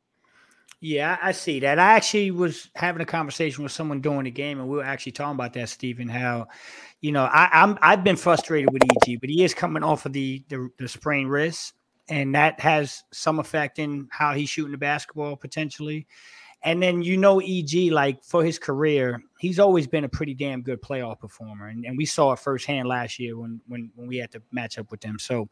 Yeah, I see that. I actually was having a conversation with someone during the game, and we were actually talking about that, Stephen, how, you know, I've been frustrated with EG, but he is coming off of the sprained wrist, and that has some effect in how he's shooting the basketball potentially. And then, you know, EG, like for his career, he's always been a pretty damn good playoff performer. And we saw it firsthand last year when we had to match up with them. So,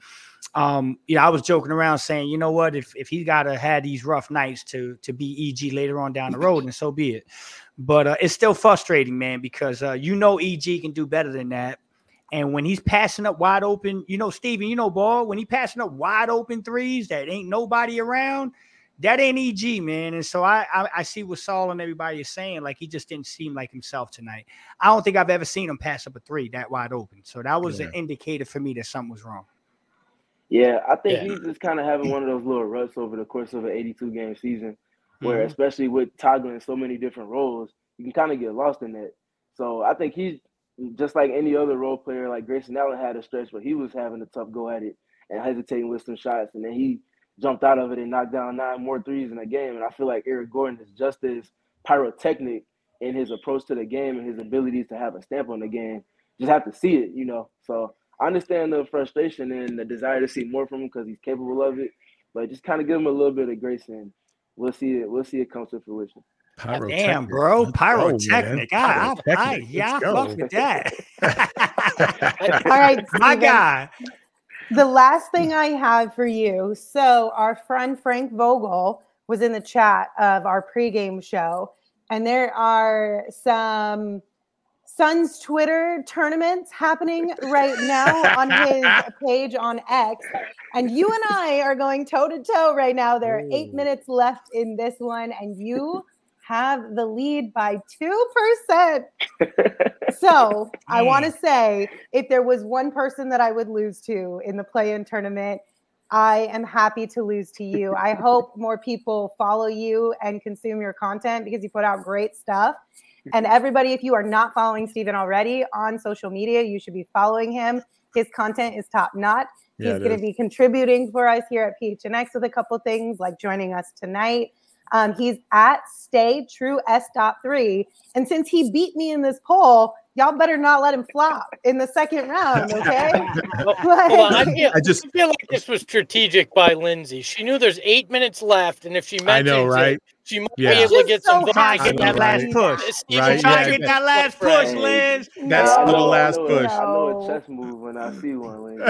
I was joking around saying, you know what, if he got to have these rough nights to be EG later on down the road, and so be it. But it's still frustrating, man, because, EG can do better than that. And when he's passing up wide open, Steven, ball, when he passing up wide open threes that ain't nobody around, that ain't EG, man. And so I see what Saul and everybody is saying. Like, he just didn't seem like himself tonight. I don't think I've ever seen him pass up a three that wide open. So that was an indicator for me that something was wrong. Yeah, I think he's just kind of having one of those little ruts over the course of an 82-game season where, especially with toggling so many different roles, you can kind of get lost in that. So I think he's just like any other role player. Like Grayson Allen had a stretch where he was having a tough go at it and hesitating with some shots, and then he jumped out of it and knocked down 9 more threes in a game. And I feel like Eric Gordon is just as pyrotechnic in his approach to the game and his abilities to have a stamp on the game. Just have to see it, So I understand the frustration and the desire to see more from him because he's capable of it. But just kind of give him a little bit of grace, and we'll see it. We'll see it come to fruition. Damn, bro, pyrotechnic. I fuck with that. All right, my guy. The last thing I have for you. So our friend Frank Vogel was in the chat of our pregame show, and there are some Suns Twitter tournaments happening right now on his page on X. And you and I are going toe to toe right now. There are 8 minutes left in this one, and you have the lead by 2%. So I want to say, if there was one person that I would lose to in the play-in tournament, I am happy to lose to you. I hope more people follow you and consume your content because you put out great stuff. And everybody, if you are not following Stephen already on social media, you should be following him. His content is top notch. He's going to be contributing for us here at PHNX with a couple things like joining us tonight. He's at StayTrueS.3. And since he beat me in this poll, y'all better not let him flop in the second round, okay? I feel like this was strategic by Lindsay. She knew there's 8 minutes left, and if she mentions it, she might be able to get some try to get that last push. Try to get that last push, Liz. That's the last push. I know a chess move when I see one, Liz.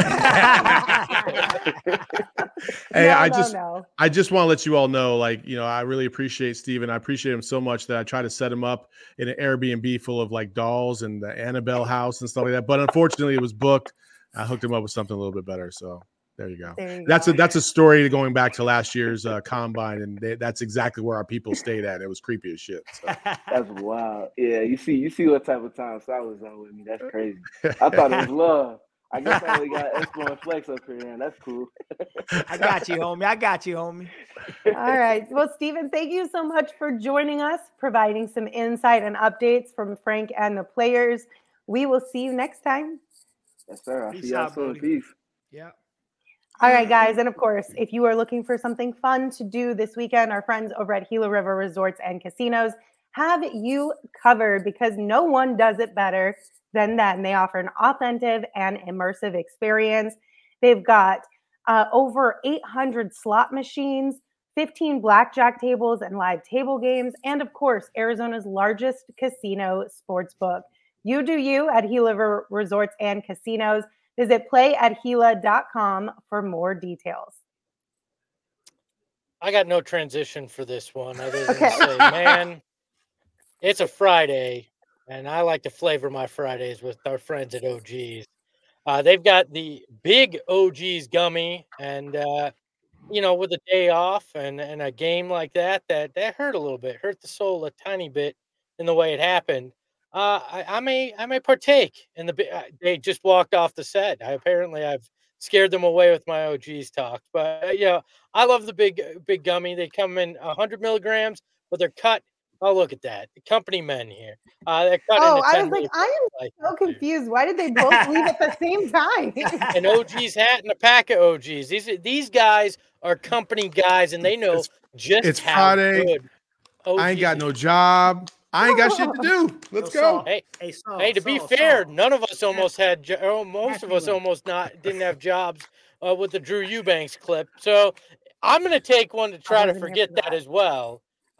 Hey, I just want to let you all know, I really appreciate Steven. I appreciate him so much that I try to set him up in an Airbnb full of dolls and the Annabelle house and stuff like that. But unfortunately, it was booked. I hooked him up with something a little bit better. So there you go. That's a story going back to last year's combine, and that's exactly where our people stayed at. It was creepy as shit. So. That's wild. Yeah, you see what type of time Sal was on with me. That's crazy. I thought it was love. I guess I only got Espo and Flex up here, and that's cool. I got you, homie. All right. Well, Stephen, thank you so much for joining us, providing some insight and updates from Frank and the players. We will see you next time. Yes, sir. I'll see y'all soon. Peace. Yeah. All right, guys. And of course, if you are looking for something fun to do this weekend, our friends over at Gila River Resorts and Casinos have you covered because no one does it better than them. They offer an authentic and immersive experience. They've got over 800 slot machines, 15 blackjack tables and live table games, and of course, Arizona's largest casino sportsbook. You do you at Gila River Resorts and Casinos. Visit playatgila.com for more details. I got no transition for this one other than to say, man, it's a Friday, and I like to flavor my Fridays with our friends at OG's. They've got the big OG's gummy, and with a day off and a game like that hurt a little bit, hurt the soul a tiny bit in the way it happened. I may partake in the. They just walked off the set. I've scared them away with my OG's talk, but I love the big gummy. They come in 100 milligrams, but they're cut. Oh, look at that, the company men here. They're cut. Oh, I was like, I am so confused. Why did they both leave at the same time? An OG's hat and a pack of OG's. These guys are company guys, and they know it's how Friday. good OG's I ain't got no job. I ain't got shit to do. Let's go. Hey, to be fair, none of us almost had. Most of us almost didn't have jobs with the Drew Eubanks clip. So I'm going to take one to try to forget that as well.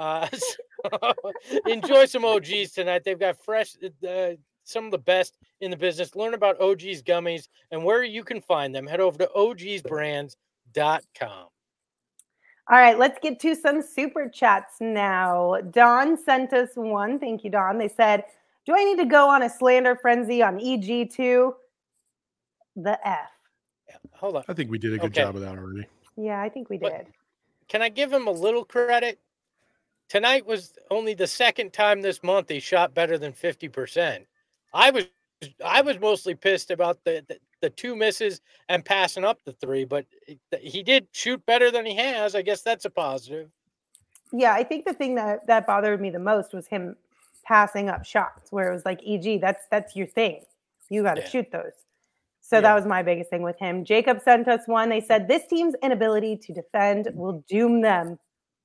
Enjoy some OG's tonight. They've got fresh, some of the best in the business. Learn about OG's gummies and where you can find them. Head over to ogsbrands.com. All right, let's get to some super chats now. Don sent us one. Thank you, Don. They said, do I need to go on a slander frenzy on EG2? The F. Yeah, hold on. I think we did a good job of that already. Yeah, I think we did. But can I give him a little credit? Tonight was only the second time this month he shot better than 50%. I was mostly pissed about the two misses and passing up the three, but he did shoot better than he has. I guess that's a positive. Yeah, I think the thing that bothered me the most was him passing up shots where it was like, EG, that's your thing. You got to shoot those. So that was my biggest thing with him. Jacob sent us one. They said, this team's inability to defend will doom them.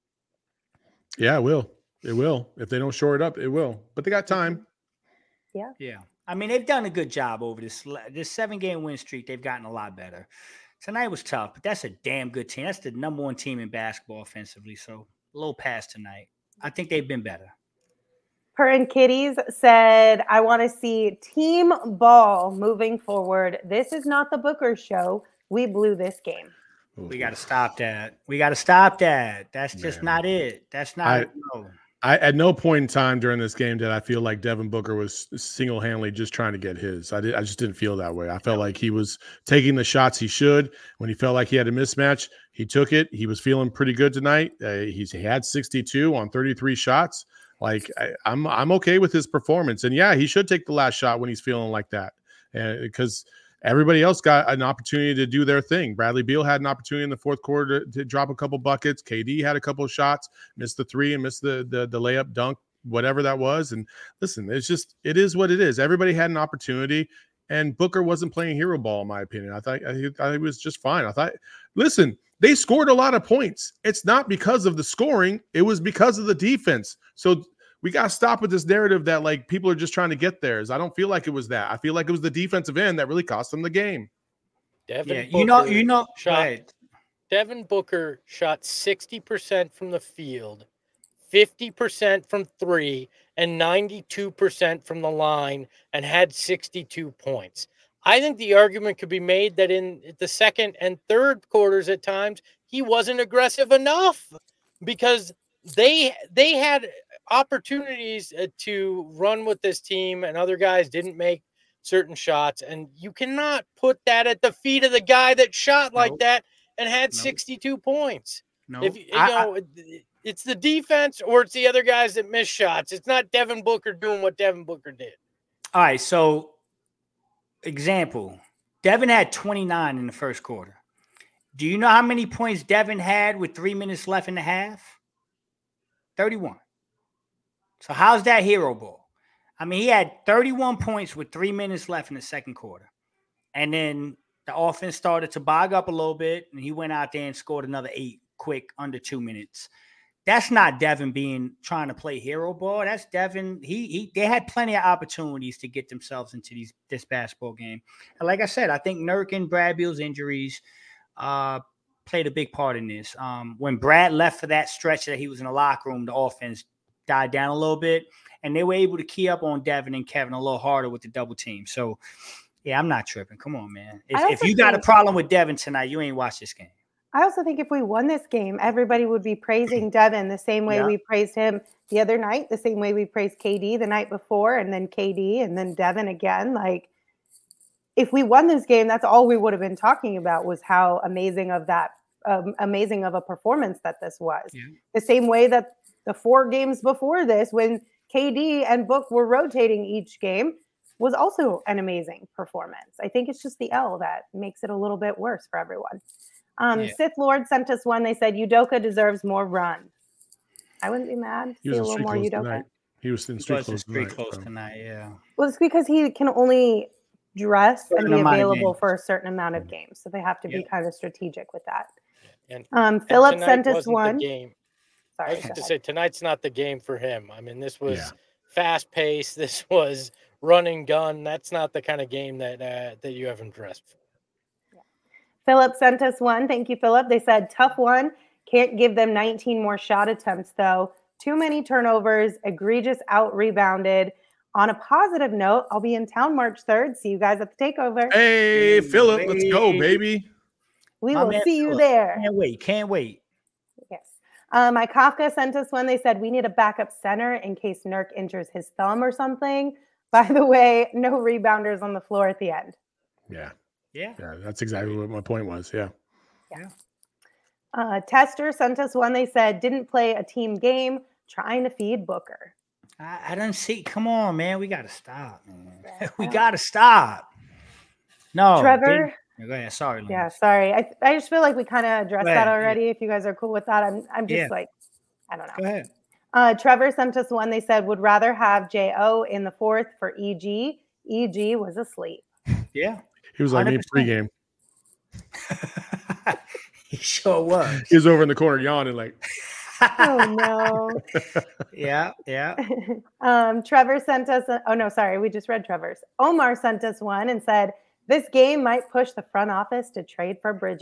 Yeah, it will. It will. If they don't shore it up, it will. But they got time. Yeah. Yeah. I mean, they've done a good job over this 7-game win streak. They've gotten a lot better. Tonight was tough, but that's a damn good team. That's the number one team in basketball offensively. So a little pass tonight. I think they've been better. Purrin Kitties said, I want to see team ball moving forward. This is not the Booker show. We blew this game. We got to stop that. That's just not it. That's not it. No. I at no point in time during this game did I feel like Devin Booker was single-handedly just trying to get his. I just didn't feel that way. I felt like he was taking the shots he should. When he felt like he had a mismatch, he took it. He was feeling pretty good tonight. He had 62 on 33 shots. Like I'm okay with his performance. And yeah, he should take the last shot when he's feeling like that, because everybody else got an opportunity to do their thing. Bradley Beal had an opportunity in the fourth quarter to drop a couple buckets. KD had a couple of shots, missed the three and missed the layup, dunk, whatever that was. And listen, it is what it is. Everybody had an opportunity, and Booker wasn't playing hero ball, in my opinion. I thought he was just fine. Listen, they scored a lot of points. It's not because of the scoring. It was because of the defense. So we got to stop with this narrative that like people are just trying to get theirs. I don't feel like it was that. I feel like it was the defensive end that really cost them the game. Devin Booker shot 60% from the field, 50% from three, and 92% from the line, and had 62 points. I think the argument could be made that in the second and third quarters at times, he wasn't aggressive enough because they had opportunities to run with this team and other guys didn't make certain shots. And you cannot put that at the feet of the guy that shot like that and had 62 points. No, it's the defense or it's the other guys that miss shots. It's not Devin Booker doing what Devin Booker did. All right. So example, Devin had 29 in the first quarter. Do you know how many points Devin had with 3 minutes left in the half? 31. So how's that hero ball? I mean, he had 31 points with 3 minutes left in the second quarter. And then the offense started to bog up a little bit, and he went out there and scored another 8 quick under 2 minutes. That's not Devin trying to play hero ball. That's Devin. They had plenty of opportunities to get themselves into this basketball game. And like I said, I think Nurk and Brad Beal's injuries played a big part in this. When Brad left for that stretch that he was in the locker room, the offense died down a little bit, and they were able to key up on Devin and Kevin a little harder with the double team. So, yeah, I'm not tripping. Come on, man. If you got a problem with Devin tonight, you ain't watched this game. I also think if we won this game, everybody would be praising Devin the same way we praised him the other night, the same way we praised KD the night before, and then KD, and then Devin again. Like, if we won this game, that's all we would have been talking about was how amazing of a performance that this was. Yeah. The same way that the 4 games before this, when KD and Book were rotating each game, was also an amazing performance. I think it's just the L that makes it a little bit worse for everyone. Sith Lord sent us one. They said Udoka deserves more run. I wouldn't be mad. He was a little more Udoka. Tonight. He was in street clothes tonight. Yeah. Well, it's because he can only dress and be available for a certain amount of games, so they have to be kind of strategic with that. And Philip sent us one. Sorry, I was to say tonight's not the game for him. I mean, this was fast paced. This was run and gun. That's not the kind of game that you have him dressed for. Philip sent us one. Thank you, Philip. They said, tough one. Can't give them 19 more shot attempts, though. Too many turnovers. Egregious out-rebounded. On a positive note, I'll be in town March 3rd. See you guys at the takeover. Hey, Philip, let's go, baby. We will see you there. Can't wait. Yes. My Kafka sent us one. They said, we need a backup center in case Nurk injures his thumb or something. By the way, no rebounders on the floor at the end. Yeah, that's exactly what my point was. Yeah. Tester sent us one. They said, didn't play a team game, trying to feed Booker. I don't see. Come on, man. We got to stop, man. We got to stop. No. Trevor. Go ahead. Sorry. Yeah, sorry. I just feel like we kind of addressed that already. If you guys are cool with that, I'm just like, I don't know. Go ahead. Trevor sent us one. They said, would rather have J.O. in the 4th for EG. EG was asleep. Yeah. He was like me pregame. He sure was. He was over in the corner yawning like. Oh, no. Yeah. Trevor sent us. We just read Trevor's. Omar sent us one and said, this game might push the front office to trade for Bridges, ...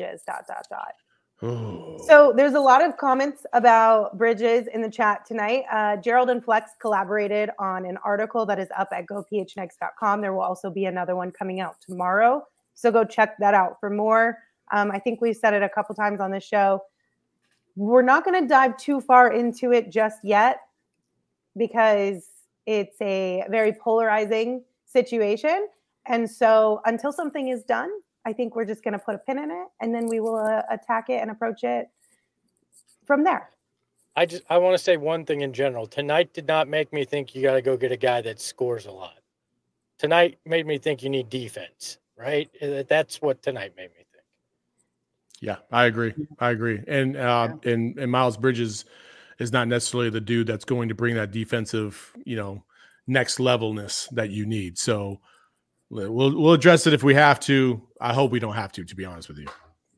Oh. So there's a lot of comments about Bridges in the chat tonight. Gerald and Flex collaborated on an article that is up at gophnx.com. There will also be another one coming out tomorrow. So go check that out for more. I think we've said it a couple times on the show. We're not going to dive too far into it just yet because it's a very polarizing situation. And so until something is done, I think we're just going to put a pin in it, and then we will attack it and approach it from there. I want to say one thing in general. Tonight did not make me think you got to go get a guy that scores a lot. Tonight made me think you need defense, right? That's what tonight made me think. Yeah, I agree. And Miles Bridges is not necessarily the dude that's going to bring that defensive, next levelness that you need. So we'll address it if we have to. I hope we don't have to be honest with you.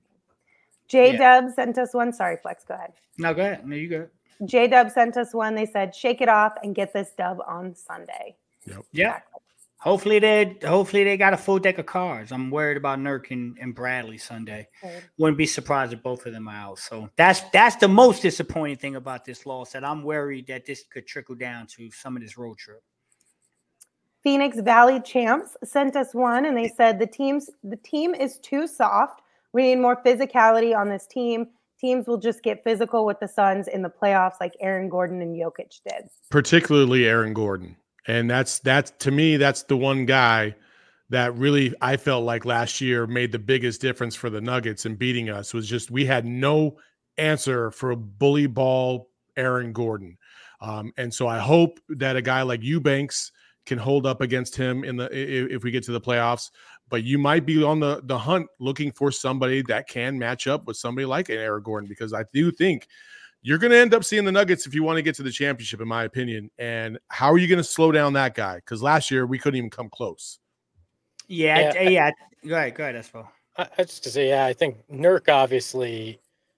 J-Dub sent us one. Sorry, Flex, go ahead. No, go ahead. No, you go. J-Dub sent us one. They said, shake it off and get this dub on Sunday. Yep. Yeah. Hopefully they got a full deck of cards. I'm worried about Nurk and Bradley Sunday. Wouldn't be surprised if both of them are out. So that's the most disappointing thing about this loss, that I'm worried that this could trickle down to some of this road trip. Phoenix Valley Champs sent us one, and they said the team is too soft. We need more physicality on this team. Teams will just get physical with the Suns in the playoffs like Aaron Gordon and Jokic did. Particularly Aaron Gordon. And that's to me, that's the one guy that really I felt like last year made the biggest difference for the Nuggets in beating us. Was just we had no answer for a bully ball Aaron Gordon. And so I hope that a guy like Eubanks can hold up against him if we get to the playoffs. But you might be on the hunt looking for somebody that can match up with somebody like an Aaron Gordon, because I do think you're going to end up seeing the Nuggets if you want to get to the championship, in my opinion. And how are you going to slow down that guy? Because last year we couldn't even come close. Yeah. Go ahead, Espo. I just to say, I think Nurk obviously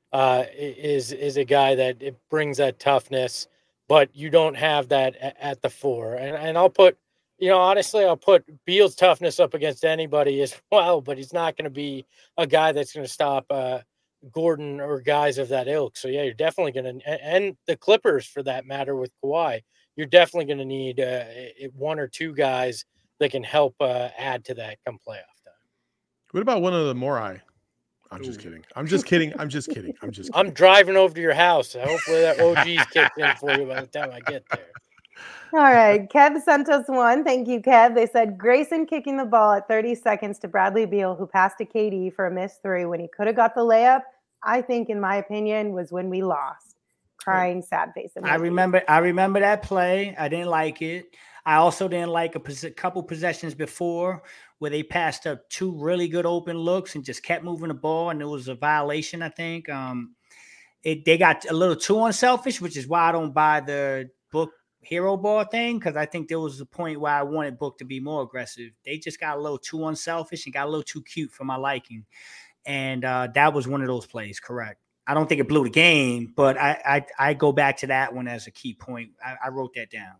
is a guy that it brings that toughness, but you don't have that at the 4. And I'll put, honestly, I'll put Beal's toughness up against anybody as well, but he's not going to be a guy that's going to stop Gordon or guys of that ilk. So, yeah, you're definitely going to, and the Clippers for that matter with Kawhi, you're definitely going to need 1 or 2 guys that can help add to that come playoff time. What about one of the Morai? I'm just kidding. I'm just kidding. I'm driving over to your house. Hopefully that OG's kicked in for you by the time I get there. All right. Kev sent us one. Thank you, Kev. They said Grayson kicking the ball at 30 seconds to Bradley Beal, who passed to KD for a missed three when he could have got the layup, I think, in my opinion, was when we lost. Crying, sad face. I remember that play. I didn't like it. I also didn't like a couple possessions before where they passed up two really good open looks and just kept moving the ball, and it was a violation, I think. They got a little too unselfish, which is why I don't buy the Book hero ball thing, because I think there was a point where I wanted Book to be more aggressive. They just got a little too unselfish and got a little too cute for my liking. And that was one of those plays, correct. I don't think it blew the game, but I go back to that one as a key point. I wrote that down.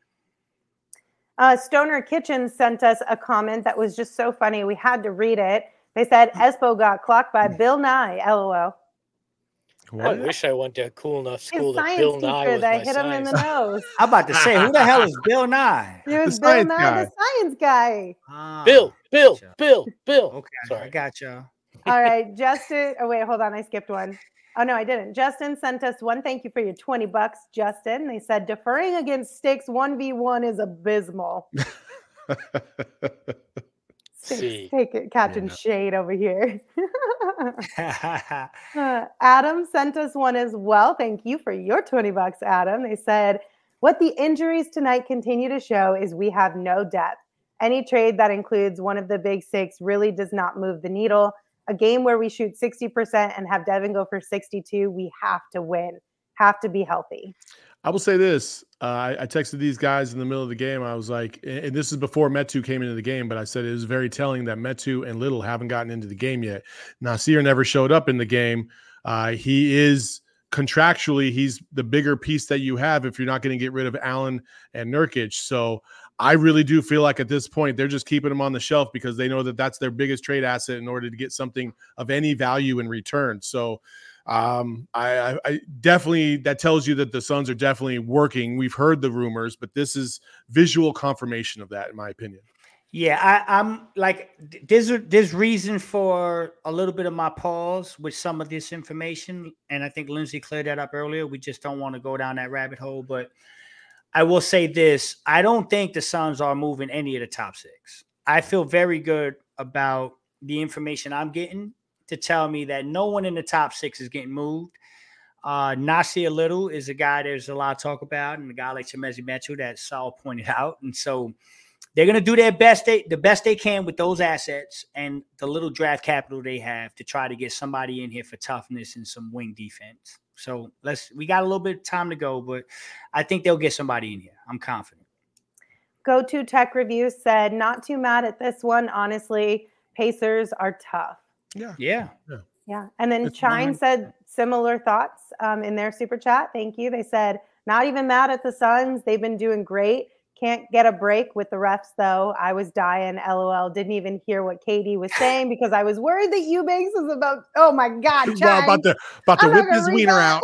Stoner Kitchen sent us a comment that was just so funny. We had to read it. They said Espo got clocked by Bill Nye. LOL. What? I wish I went to a cool enough school His that science Bill Nye teacher was that my hit him in the science. nose. I'm about to say, who the hell is Bill Nye? It was The Bill science Nye, guy. the science guy. Bill. Okay, Sorry. I got you. All right, Justin. Oh, wait, hold on. I skipped one. Oh, no, I didn't. Justin sent us one. Thank you for your $20, Justin. They said deferring against Sticks 1v1 is abysmal. Sticks, take it, catching shade over here. Adam sent us one as well. Thank you for your $20, Adam. They said, what the injuries tonight continue to show is we have no depth. Any trade that includes one of the big six really does not move the needle. A game where we shoot 60% and have Devin go for 62, we have to win, have to be healthy. I will say this. I texted these guys in the middle of the game. I was like, and this is before Metu came into the game, but I said it was very telling that Metu and Little haven't gotten into the game yet. Nasir never showed up in the game. He is contractually, he's the bigger piece that you have if you're not going to get rid of Allen and Nurkic. So I really do feel like at this point, they're just keeping him on the shelf because they know that that's their biggest trade asset in order to get something of any value in return. So I definitely, that tells you that the Suns are definitely working. We've heard the rumors, but this is visual confirmation of that, in my opinion. Yeah, I'm like, there's reason for a little bit of my pause with some of this information. And I think Lindsay cleared that up earlier. We just don't want to go down that rabbit hole, but I will say this. I don't think the Suns are moving any of the top six. I feel very good about the information I'm getting to tell me that no one in the top six is getting moved. Nasir Little is a guy there's a lot of talk about, and a guy like Chimezie Metu that Saul pointed out. And so they're going to do their best, the best they can with those assets and the little draft capital they have to try to get somebody in here for toughness and some wing defense. So we got a little bit of time to go, but I think they'll get somebody in here. I'm confident. Go To Tech Review said, not too mad at this one. Honestly, Pacers are tough. Yeah. And then Chine said similar thoughts in their super chat. Thank you. They said, not even mad at the Suns. They've been doing great. Can't get a break with the refs, though. I was dying. LOL. Didn't even hear what Katie was saying because I was worried that Eubanks was about. Oh my God, Chine. About to whip his wiener out.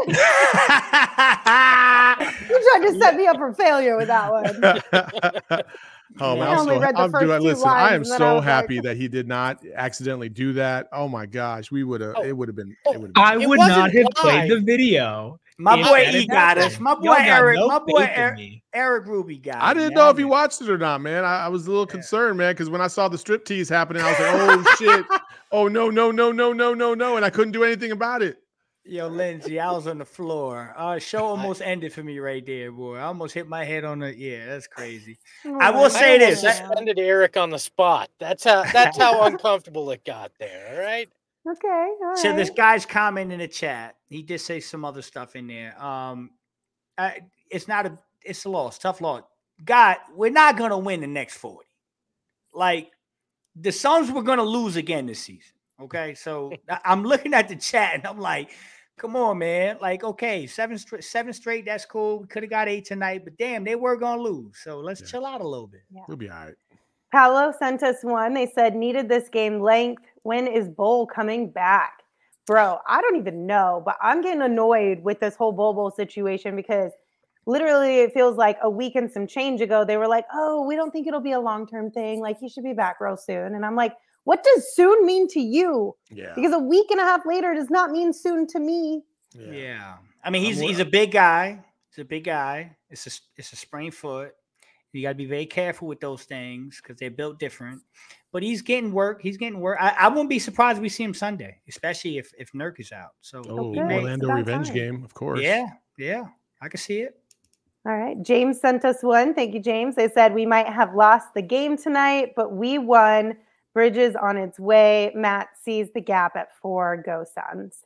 You tried to set me up for failure with that one. Listen, I am so happy that he did not accidentally do that. Oh my gosh, it would have been. I would not have played the video. My boy E got us. My boy Eric. My boy Eric Ruby got us. I didn't know if he watched it or not, man. I was a little concerned, man, because when I saw the striptease happening, I was like, oh shit. Oh no, and I couldn't do anything about it. Yo, Lindsay, I was on the floor. Show almost ended for me right there, boy. I almost hit my head on the. Yeah, that's crazy. I will say this: suspended Eric on the spot. That's how uncomfortable it got there. All right. Okay. All right. So this guy's comment in the chat. He did say some other stuff in there. It's a loss, tough loss. God, we're not gonna win the next 40. Like the Suns were gonna lose again this season. Okay, so I'm looking at the chat and I'm like, come on, man. Like, okay, seven straight, that's cool. We could have got 8 tonight, but damn, they were gonna lose. So let's chill out a little bit. Yeah. We'll be all right. Paolo sent us one. They said, needed this game length. When is Bol coming back? Bro, I don't even know, but I'm getting annoyed with this whole Bol situation because literally it feels like a week and some change ago, they were like, oh, we don't think it'll be a long-term thing. Like, he should be back real soon. And I'm like, What does soon mean to you? Yeah. Because a week and a half later does not mean soon to me. Yeah. I mean, he's a big guy. He's a big guy. It's a sprained foot. You got to be very careful with those things because they're built different. But he's getting work. I wouldn't be surprised if we see him Sunday, especially if Nurk is out. So Orlando revenge game, of course. Yeah, I can see it. All right. James sent us one. Thank you, James. They said we might have lost the game tonight, but we won. Bridges on its way. Matt sees the gap at 4. Go Suns.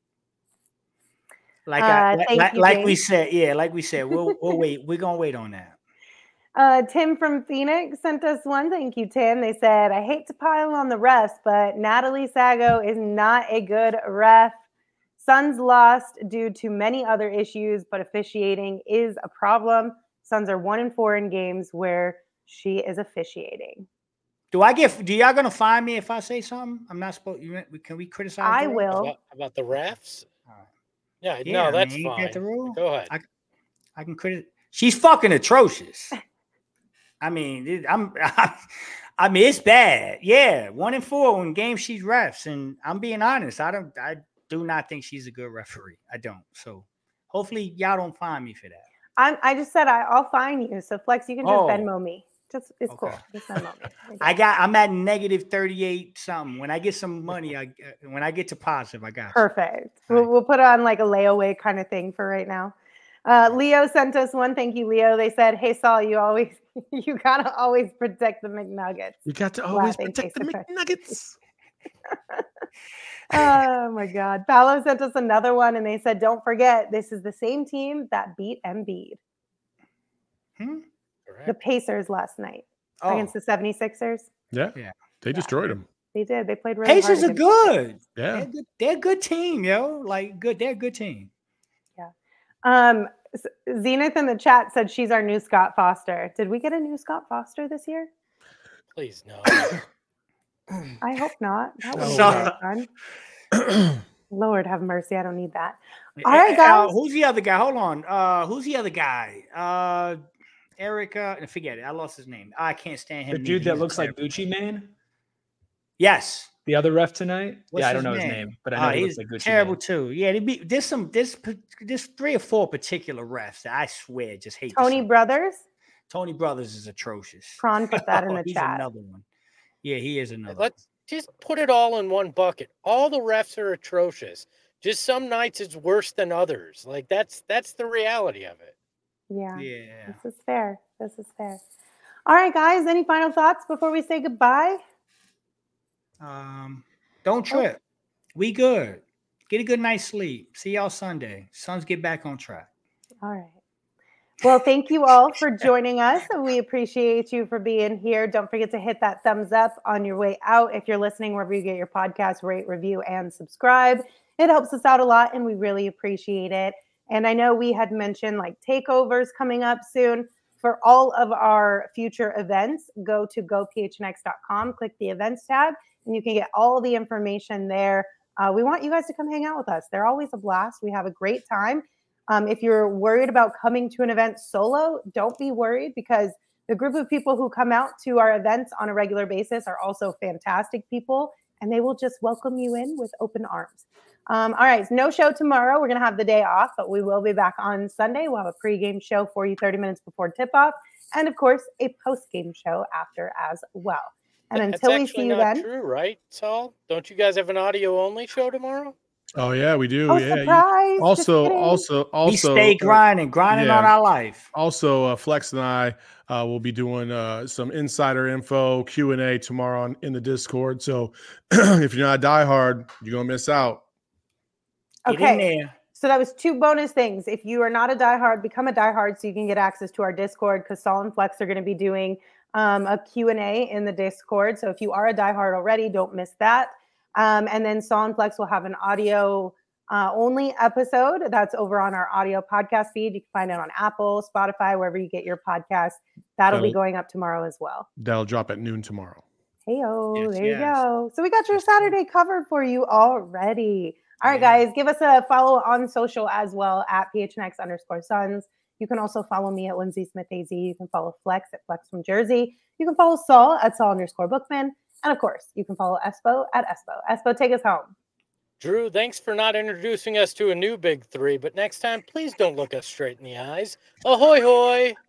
Like we said, we'll wait. We're gonna wait on that. Tim from Phoenix sent us one. Thank you, Tim. They said, I hate to pile on the refs, but Natalie Sago is not a good ref. Suns lost due to many other issues, but officiating is a problem. Suns are 1-4 in games where she is officiating. Do y'all gonna find me if I say something? I'm not supposed. Can we criticize? I will. About the refs. Yeah, Yeah, no, that's I mean, fine. the rule. Go ahead. I can criticize. She's fucking atrocious. I mean, it's bad. Yeah, 1-4 in games she's refs, and I'm being honest. I do not think she's a good referee. I don't. So hopefully y'all don't find me for that. I just said I'll find you. So Flex, you can just Venmo me. It's cool. Just Venmo me. I'm at -38 something. When I get some money, when I get to positive, I got perfect. We'll put on like a layaway kind of thing for right now. Leo sent us one. Thank you, Leo. They said, "Hey Saul, you gotta always protect the McNuggets. You got to always protect the McNuggets." Oh my God. Paolo sent us another one and they said, don't forget, this is the same team that beat Embiid. The Pacers last night against the 76ers. Yeah. They destroyed them. They did. They played really Pacers hard. are good. Yeah. They're a good team, yo. They're a good team. Yeah. Zenith in the chat said she's our new Scott Foster. Did we get a new Scott Foster this year? Please no. I hope not. That would be very fun. Lord have mercy. I don't need that. All right, guys. Who's the other guy? Hold on. Who's the other guy? Erica. Forget it. I lost his name. I can't stand him. The dude that looks like Gucci Mane? Yes. The other ref tonight? What's I don't know his name, but I know he looks like Gucci terrible Mane. too. Yeah, there's 3 or 4 particular refs that I swear just hate. Tony Brothers? Tony Brothers is atrocious. Prawn put that in the he's chat. Another one. Yeah, he is another. Let's just put it all in one bucket. All the refs are atrocious. Just some nights it's worse than others. Like that's the reality of it. Yeah. This is fair. All right, guys. Any final thoughts before we say goodbye? Don't trip. We good. Get a good night's sleep. See y'all Sunday. Suns get back on track. All right. Well, thank you all for joining us. We appreciate you for being here. Don't forget to hit that thumbs up on your way out. If you're listening wherever you get your podcast, rate, review, and subscribe. It helps us out a lot, and we really appreciate it. And I know we had mentioned like takeovers coming up soon. For all of our future events, go to gophnx.com, click the events tab, and you can get all the information there. We want you guys to come hang out with us. They're always a blast. We have a great time. If you're worried about coming to an event solo, don't be worried because the group of people who come out to our events on a regular basis are also fantastic people, and they will just welcome you in with open arms. All right, no show tomorrow. We're going to have the day off, but we will be back on Sunday. We'll have a pregame show for you 30 minutes before tip-off, and, of course, a postgame show after as well. And until we see you then. That's true, right, Saul? Don't you guys have an audio-only show tomorrow? Oh yeah, we do. Oh, yeah. surprise. Also, we stay grinding on our life. Also, Flex and I will be doing some insider info Q&A tomorrow in the Discord. So if you're not a diehard, you're gonna miss out. Okay. So that was 2 bonus things. If you are not a diehard, become a diehard so you can get access to our Discord because Saul and Flex are going to be doing a Q&A in the Discord. So if you are a diehard already, don't miss that. And then Saul and Flex will have an audio only episode that's over on our audio podcast feed. You can find it on Apple, Spotify, wherever you get your podcast. That'll be going up tomorrow as well. That'll drop at noon tomorrow. Hey-o, there you go. So we got your Saturday covered for you already. All right, guys, give us a follow on social as well at PHNX_Suns. You can also follow me at Lindsay Smith AZ. You can follow Flex at Flex from Jersey. You can follow Saul at Saul_Bookman. And of course, you can follow Espo at Espo. Espo, take us home. Drew, thanks for not introducing us to a new big three, but next time, please don't look us straight in the eyes. Ahoy, hoy!